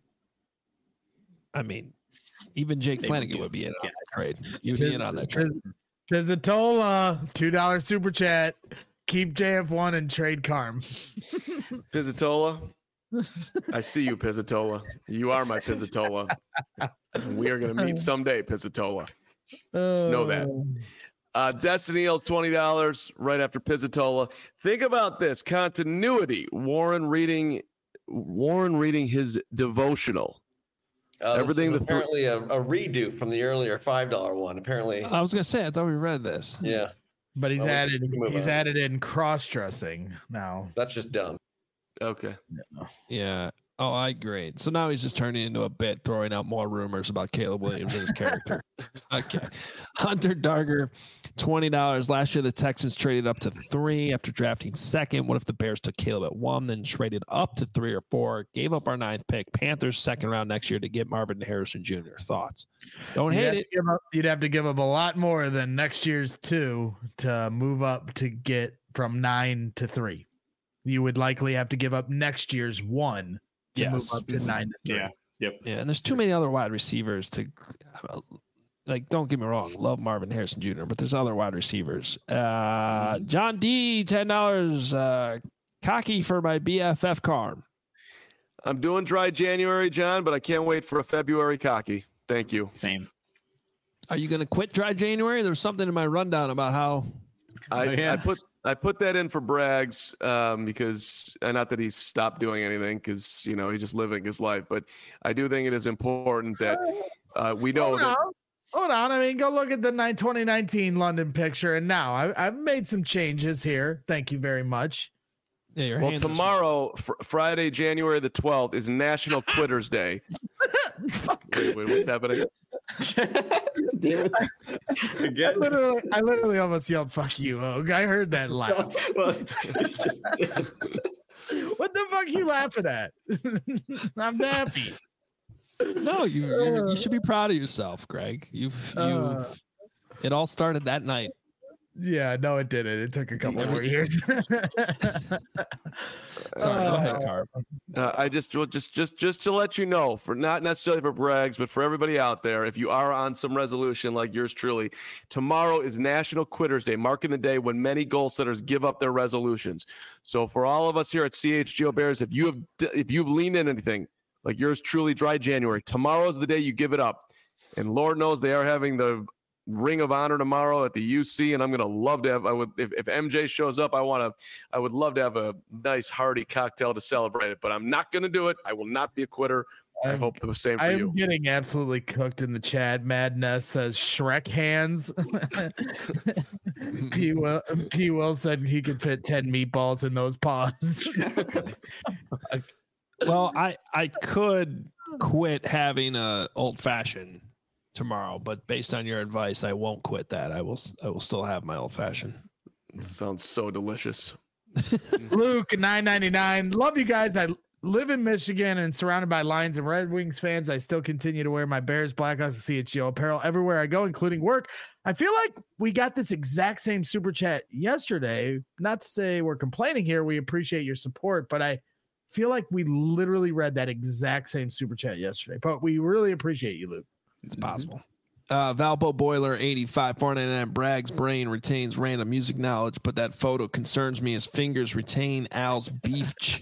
I mean, even Jake Flanagan would be in on that trade. You'd be in on that trade. Pizzatola, $2 super chat. Keep JF1 and trade Carm. Pizzatola. I see you, Pizzatola. You are my Pizzatola. We are going to meet someday, Pizzatola. Just know that. Destiny owes $20 right after Pizzatola. Think about this continuity. Warren reading his devotional. Everything apparently a redo from the earlier $5 one. Apparently, I was gonna say I thought we read this. Yeah, but he's added in cross dressing now. That's just dumb. Okay. Yeah. Oh, I agree. So now he's just turning into a bit, throwing out more rumors about Caleb Williams and his character. Okay. Hunter Darger, $20. Last year, the Texans traded up to 3 after drafting second. What if the Bears took Caleb at 1, then traded up to 3 or 4, gave up our 9th pick, Panthers second round next year to get Marvin Harrison Jr.? Thoughts? Don't hate it. You'd have to give up a lot more than next year's 2 to move up to get from 9 to 3. You would likely have to give up next year's 1 to move up to 9 to 3. Yeah. Yep. Yeah, and there's too many other wide receivers to don't get me wrong, love Marvin Harrison Jr., but there's other wide receivers. John D, $10. Cocky for my BFF Carm. I'm doing dry January, John, but I can't wait for a February cocky. Thank you. Same. Are you going to quit dry January? There's something in my rundown about how I I put that in for Braggs because not that he's stopped doing anything because he's just living his life, but I do think it is important that we know that. Hold on. I mean, go look at the 2019 London picture, and now I've made some changes here. Thank you very much. Yeah, well, tomorrow, Friday, January the 12th, is National Quitters Day. wait, what's happening? Again? I literally almost yelled "fuck you," Oak. I heard that laugh. What the fuck are you laughing at? I'm happy. No, you should be proud of yourself, Greg. It all started that night. Yeah, no, it didn't. It took a couple more years. Sorry, go ahead, Carp. I just to let you know, for not necessarily for Braggs, but for everybody out there, if you are on some resolution like yours truly, tomorrow is National Quitters Day, marking the day when many goal setters give up their resolutions. So for all of us here at CHGO Bears, if you've leaned in anything like yours truly, Dry January, tomorrow's the day you give it up. And Lord knows they are having the Ring of Honor tomorrow at the UC, and I'm gonna love to have. If MJ shows up, I would love to have a nice hearty cocktail to celebrate it. But I'm not gonna do it. I will not be a quitter. I hope the same for you. I'm getting absolutely cooked in the chat. Madness says Shrek hands. P. Will said he could fit 10 meatballs in those paws. Well, I could quit having a old fashioned tomorrow, but based on your advice, I won't quit that. I will still have my old fashioned. Sounds so delicious. Luke 999. Love you guys. I live in Michigan and surrounded by Lions and Red Wings fans. I still continue to wear my Bears, Blackhawks, and CHGO apparel everywhere I go, including work. I feel like we got this exact same super chat yesterday. Not to say we're complaining here. We appreciate your support, but I feel like we literally read that exact same super chat yesterday. But we really appreciate you, Luke. It's possible. Valpo Boiler 85 499. Bragg's brain retains random music knowledge, but that photo concerns me. His fingers retain Al's beef juice.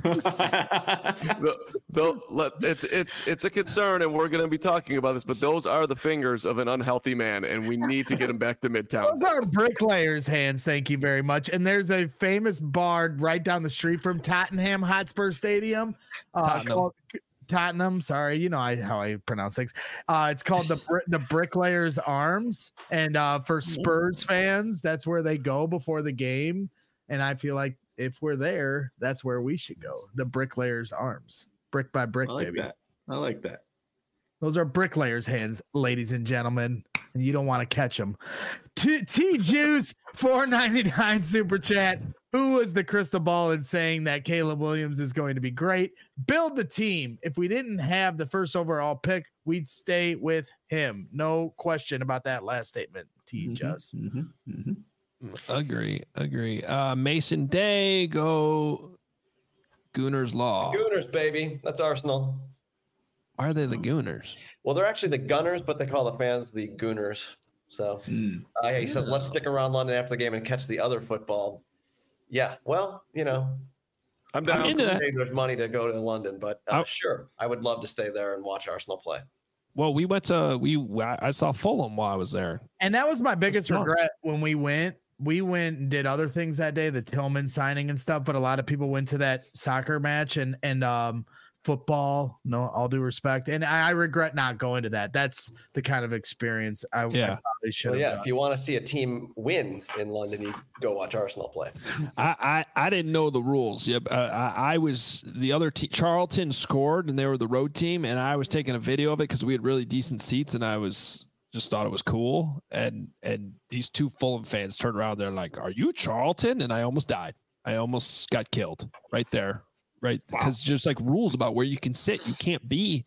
It's a concern, and we're going to be talking about this. But those are the fingers of an unhealthy man, and we need to get him back to Midtown. Those are bricklayers' hands. Thank you very much. And there's a famous bar right down the street from Tottenham Hotspur Stadium. Tottenham, sorry, you know how I pronounce things. It's called the Bricklayers Arms, and for Spurs fans, that's where they go before the game. And I feel like if we're there, that's where we should go. The Bricklayers Arms, brick by brick, baby. I like that. Those are bricklayers' hands, ladies and gentlemen, and you don't want to catch them. T Juice 499 super chat. Who was the crystal ball in saying that Caleb Williams is going to be great? Build the team. If we didn't have the first overall pick, we'd stay with him. No question about that last statement, Just. Agree. Mason Day, go Gooners Law. Gooners, baby. That's Arsenal. Why are they the Gooners? Well, they're actually the Gunners, but they call the fans the Gooners. So he said, let's stick around London after the game and catch the other football. Yeah, well, I'm down. There's money to go to London, but sure, I would love to stay there and watch Arsenal play. Well, I saw Fulham while I was there, and that was my biggest regret when we went. We went and did other things that day, the Tillman signing and stuff. But a lot of people went to that soccer match and football. No, all due respect, and I regret not going to that. That's the kind of experience I probably should have. Yeah, if you want to see a team win in London, you go watch Arsenal play. I didn't know the rules. Yep, I was the other team. Charlton scored, and they were the road team, and I was taking a video of it because we had really decent seats, and I just thought it was cool. And these two Fulham fans turned around. They're like, "Are you Charlton?" And I almost died. I almost got killed right there. Right, because just like rules about where you can sit, you can't be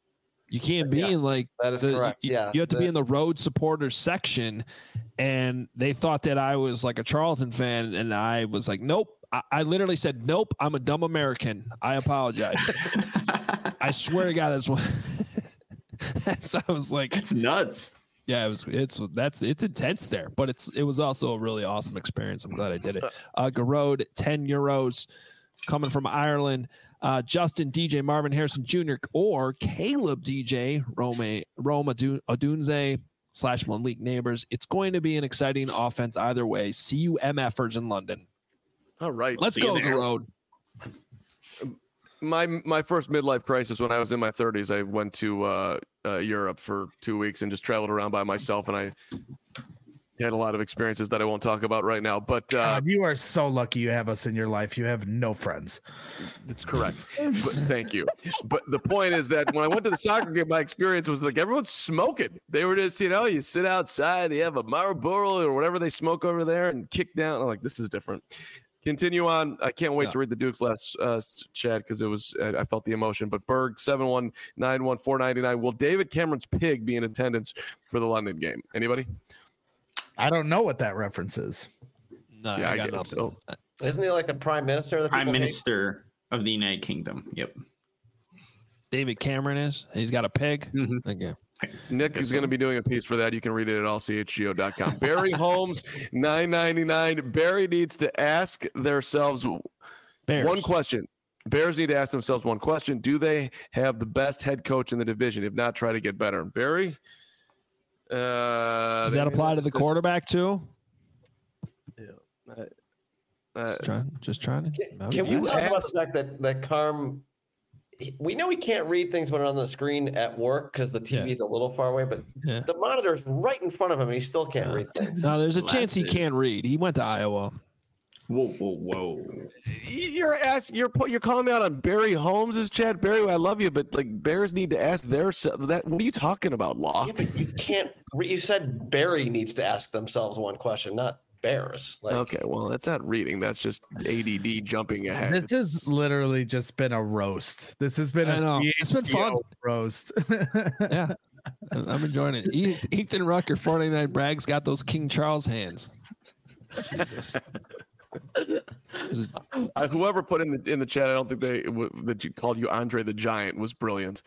in like that is correct. You have to be in the road supporters section, and they thought that I was like a Charlton fan, and I was like, nope. I literally said, nope. I'm a dumb American. I apologize. I swear to God, that's what. I was like, it's nuts. Yeah, it's intense there, but it was also a really awesome experience. I'm glad I did it. Garode, €10. Coming from Ireland, Justin DJ, Marvin Harrison Jr., or Caleb DJ, Roma Odunze, Malik Neighbors. It's going to be an exciting offense either way. See you MFers in London. All right. Let's go on the road. My first midlife crisis when I was in my 30s, I went to Europe for 2 weeks and just traveled around by myself, and I had a lot of experiences that I won't talk about right now. But God, you are so lucky you have us in your life. You have no friends. That's correct. But, thank you. But the point is that when I went to the soccer game, my experience was like everyone's smoking. They were just, you sit outside, they have a Marlboro or whatever they smoke over there and kick down. I'm like, this is different. Continue on. I can't wait to read the Duke's last chat because it was I felt the emotion. But Berg 7191499. Will David Cameron's pig be in attendance for the London game? Anybody? I don't know what that reference is. No, yeah, I got nothing. So, isn't he like the prime minister? Of the prime minister of the United Kingdom. Yep. David Cameron is. He's got a pig. Mm-hmm. Okay. Nick is going to be doing a piece for that. You can read it at allchgo.com. Barry Holmes, $9.99. Barry needs to ask themselves one question. Bears need to ask themselves one question. Do they have the best head coach in the division? If not, try to get better. Barry? Does that apply to the quarterback too? Yeah. Just trying to. Can we talk about the fact that Carm, we know he can't read things when they're on the screen at work because the TV is a little far away, but the monitor is right in front of him and he still can't read things. No, there's a chance he can't read. He went to Iowa. Whoa. You're calling me out on Barry Holmes' chat. Barry, I love you, but like Bears need to ask that. What are you talking about, Law? Yeah, but you can't. You said Barry needs to ask themselves one question, not Bears. Okay, well, that's not reading. That's just ADD jumping ahead. This has literally just been a roast. This has been it's been fun roast. Yeah, I'm enjoying it. Ethan Rucker, 49 Brags, got those King Charles hands. Jesus. Whoever put in the chat, I don't think that you called you Andre the Giant was brilliant.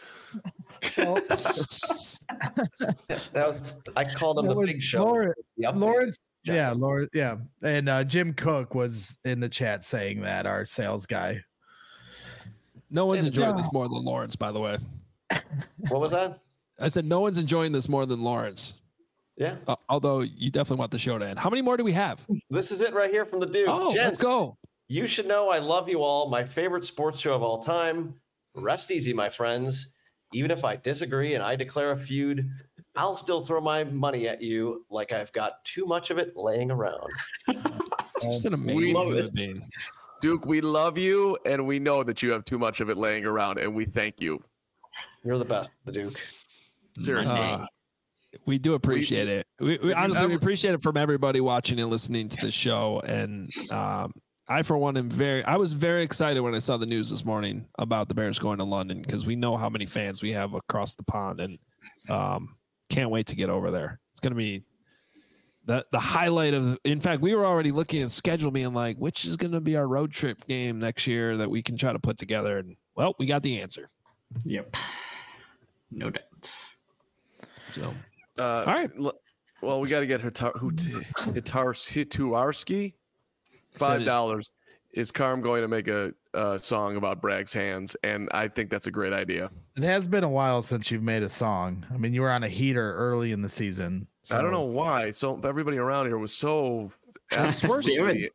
I called him the Big Show. Lawrence. Yeah, Lawrence. Yeah, and Jim Cook was in the chat saying that, our sales guy. No one's enjoying this more than Lawrence, by the way. What was that? I said no one's enjoying this more than Lawrence. Yeah. Although you definitely want the show to end. How many more do we have? This is it right here from the Duke. Oh, Gents, let's go. You should know I love you all. My favorite sports show of all time. Rest easy, my friends. Even if I disagree and I declare a feud, I'll still throw my money at you like I've got too much of it laying around. Just an amazing human being. Duke, we love you, and we know that you have too much of it laying around, and we thank you. You're the best, the Duke. Seriously. We do appreciate it. We honestly appreciate it from everybody watching and listening to the show. And I, for one, I was very excited when I saw the news this morning about the Bears going to London because we know how many fans we have across the pond, and can't wait to get over there. It's going to be the highlight of. In fact, we were already looking at schedule, being like, which is going to be our road trip game next year that we can try to put together. And well, we got the answer. Yep. No doubt. So. All right. Well, we got to get Hituarski. $5. Is Carm going to make a song about Bragg's hands? And I think that's a great idea. It has been a while since you've made a song. I mean, you were on a heater early in the season. So. I don't know why. So everybody around here was so encouraging.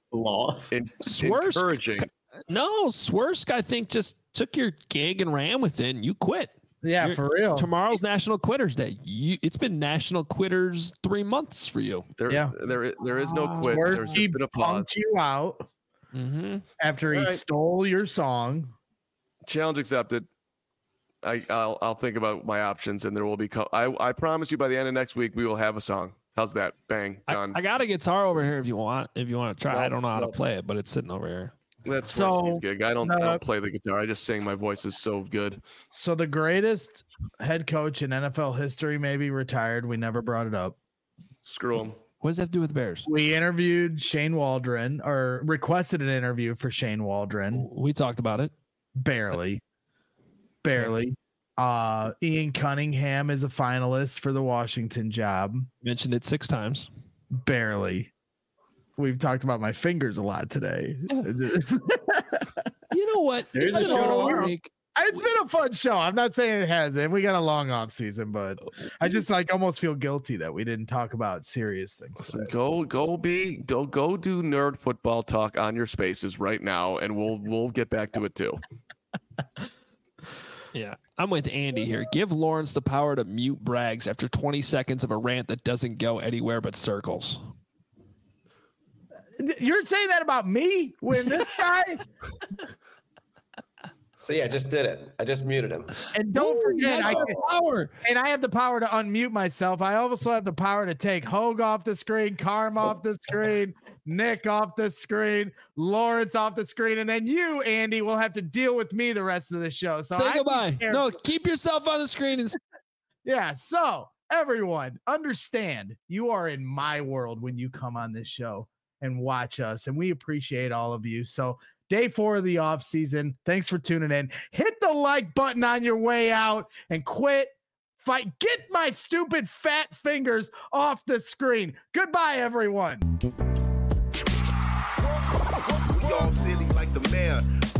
No, Swersk, I think, just took your gig and ran with it, and you quit. Yeah, for real. Tomorrow's National Quitters Day. It's been National Quitters 3 months for you. There is no quit. There's just been a pause. You out after he stole your song. Challenge accepted. I'll think about my options, and there will be. I promise you, by the end of next week, we will have a song. How's that? Bang, done. I got a guitar over here if you want. If you want to try, I don't know how to play it, but it's sitting over here. That's Swerski's gig. I don't play the guitar. I just sing. My voice is so good. So the greatest head coach in NFL history maybe retired. We never brought it up. Screw him. What does that have to do with the Bears? We interviewed Shane Waldron, or requested an interview for Shane Waldron. We talked about it. Barely. Ian Cunningham is a finalist for the Washington job. Mentioned it 6 times. Barely. We've talked about my fingers a lot today. You know what? There's a show tomorrow. It's been a fun show. I'm not saying it hasn't. We got a long off season, but I just almost feel guilty that we didn't talk about serious things. Listen, go do nerd football talk on your spaces right now, and we'll get back to it too. Yeah, I'm with Andy here. Give Lawrence the power to mute Braggs after 20 seconds of a rant that doesn't go anywhere but circles. You're saying that about me when this guy? See, I just did it. I just muted him. And don't forget, I have the power to unmute myself. I also have the power to take Hogue off the screen, Carm off the screen, Nick off the screen, Lawrence off the screen, and then you, Andy, will have to deal with me the rest of the show. So say goodbye. No, keep yourself on the screen. Yeah, so everyone, understand you are in my world when you come on this show and watch us, and we appreciate all of you. So Day 4 of the off season. Thanks for tuning in. Hit the like button on your way out and quit fight. Get my stupid fat fingers off the screen. Goodbye, everyone. We all silly like the mayor.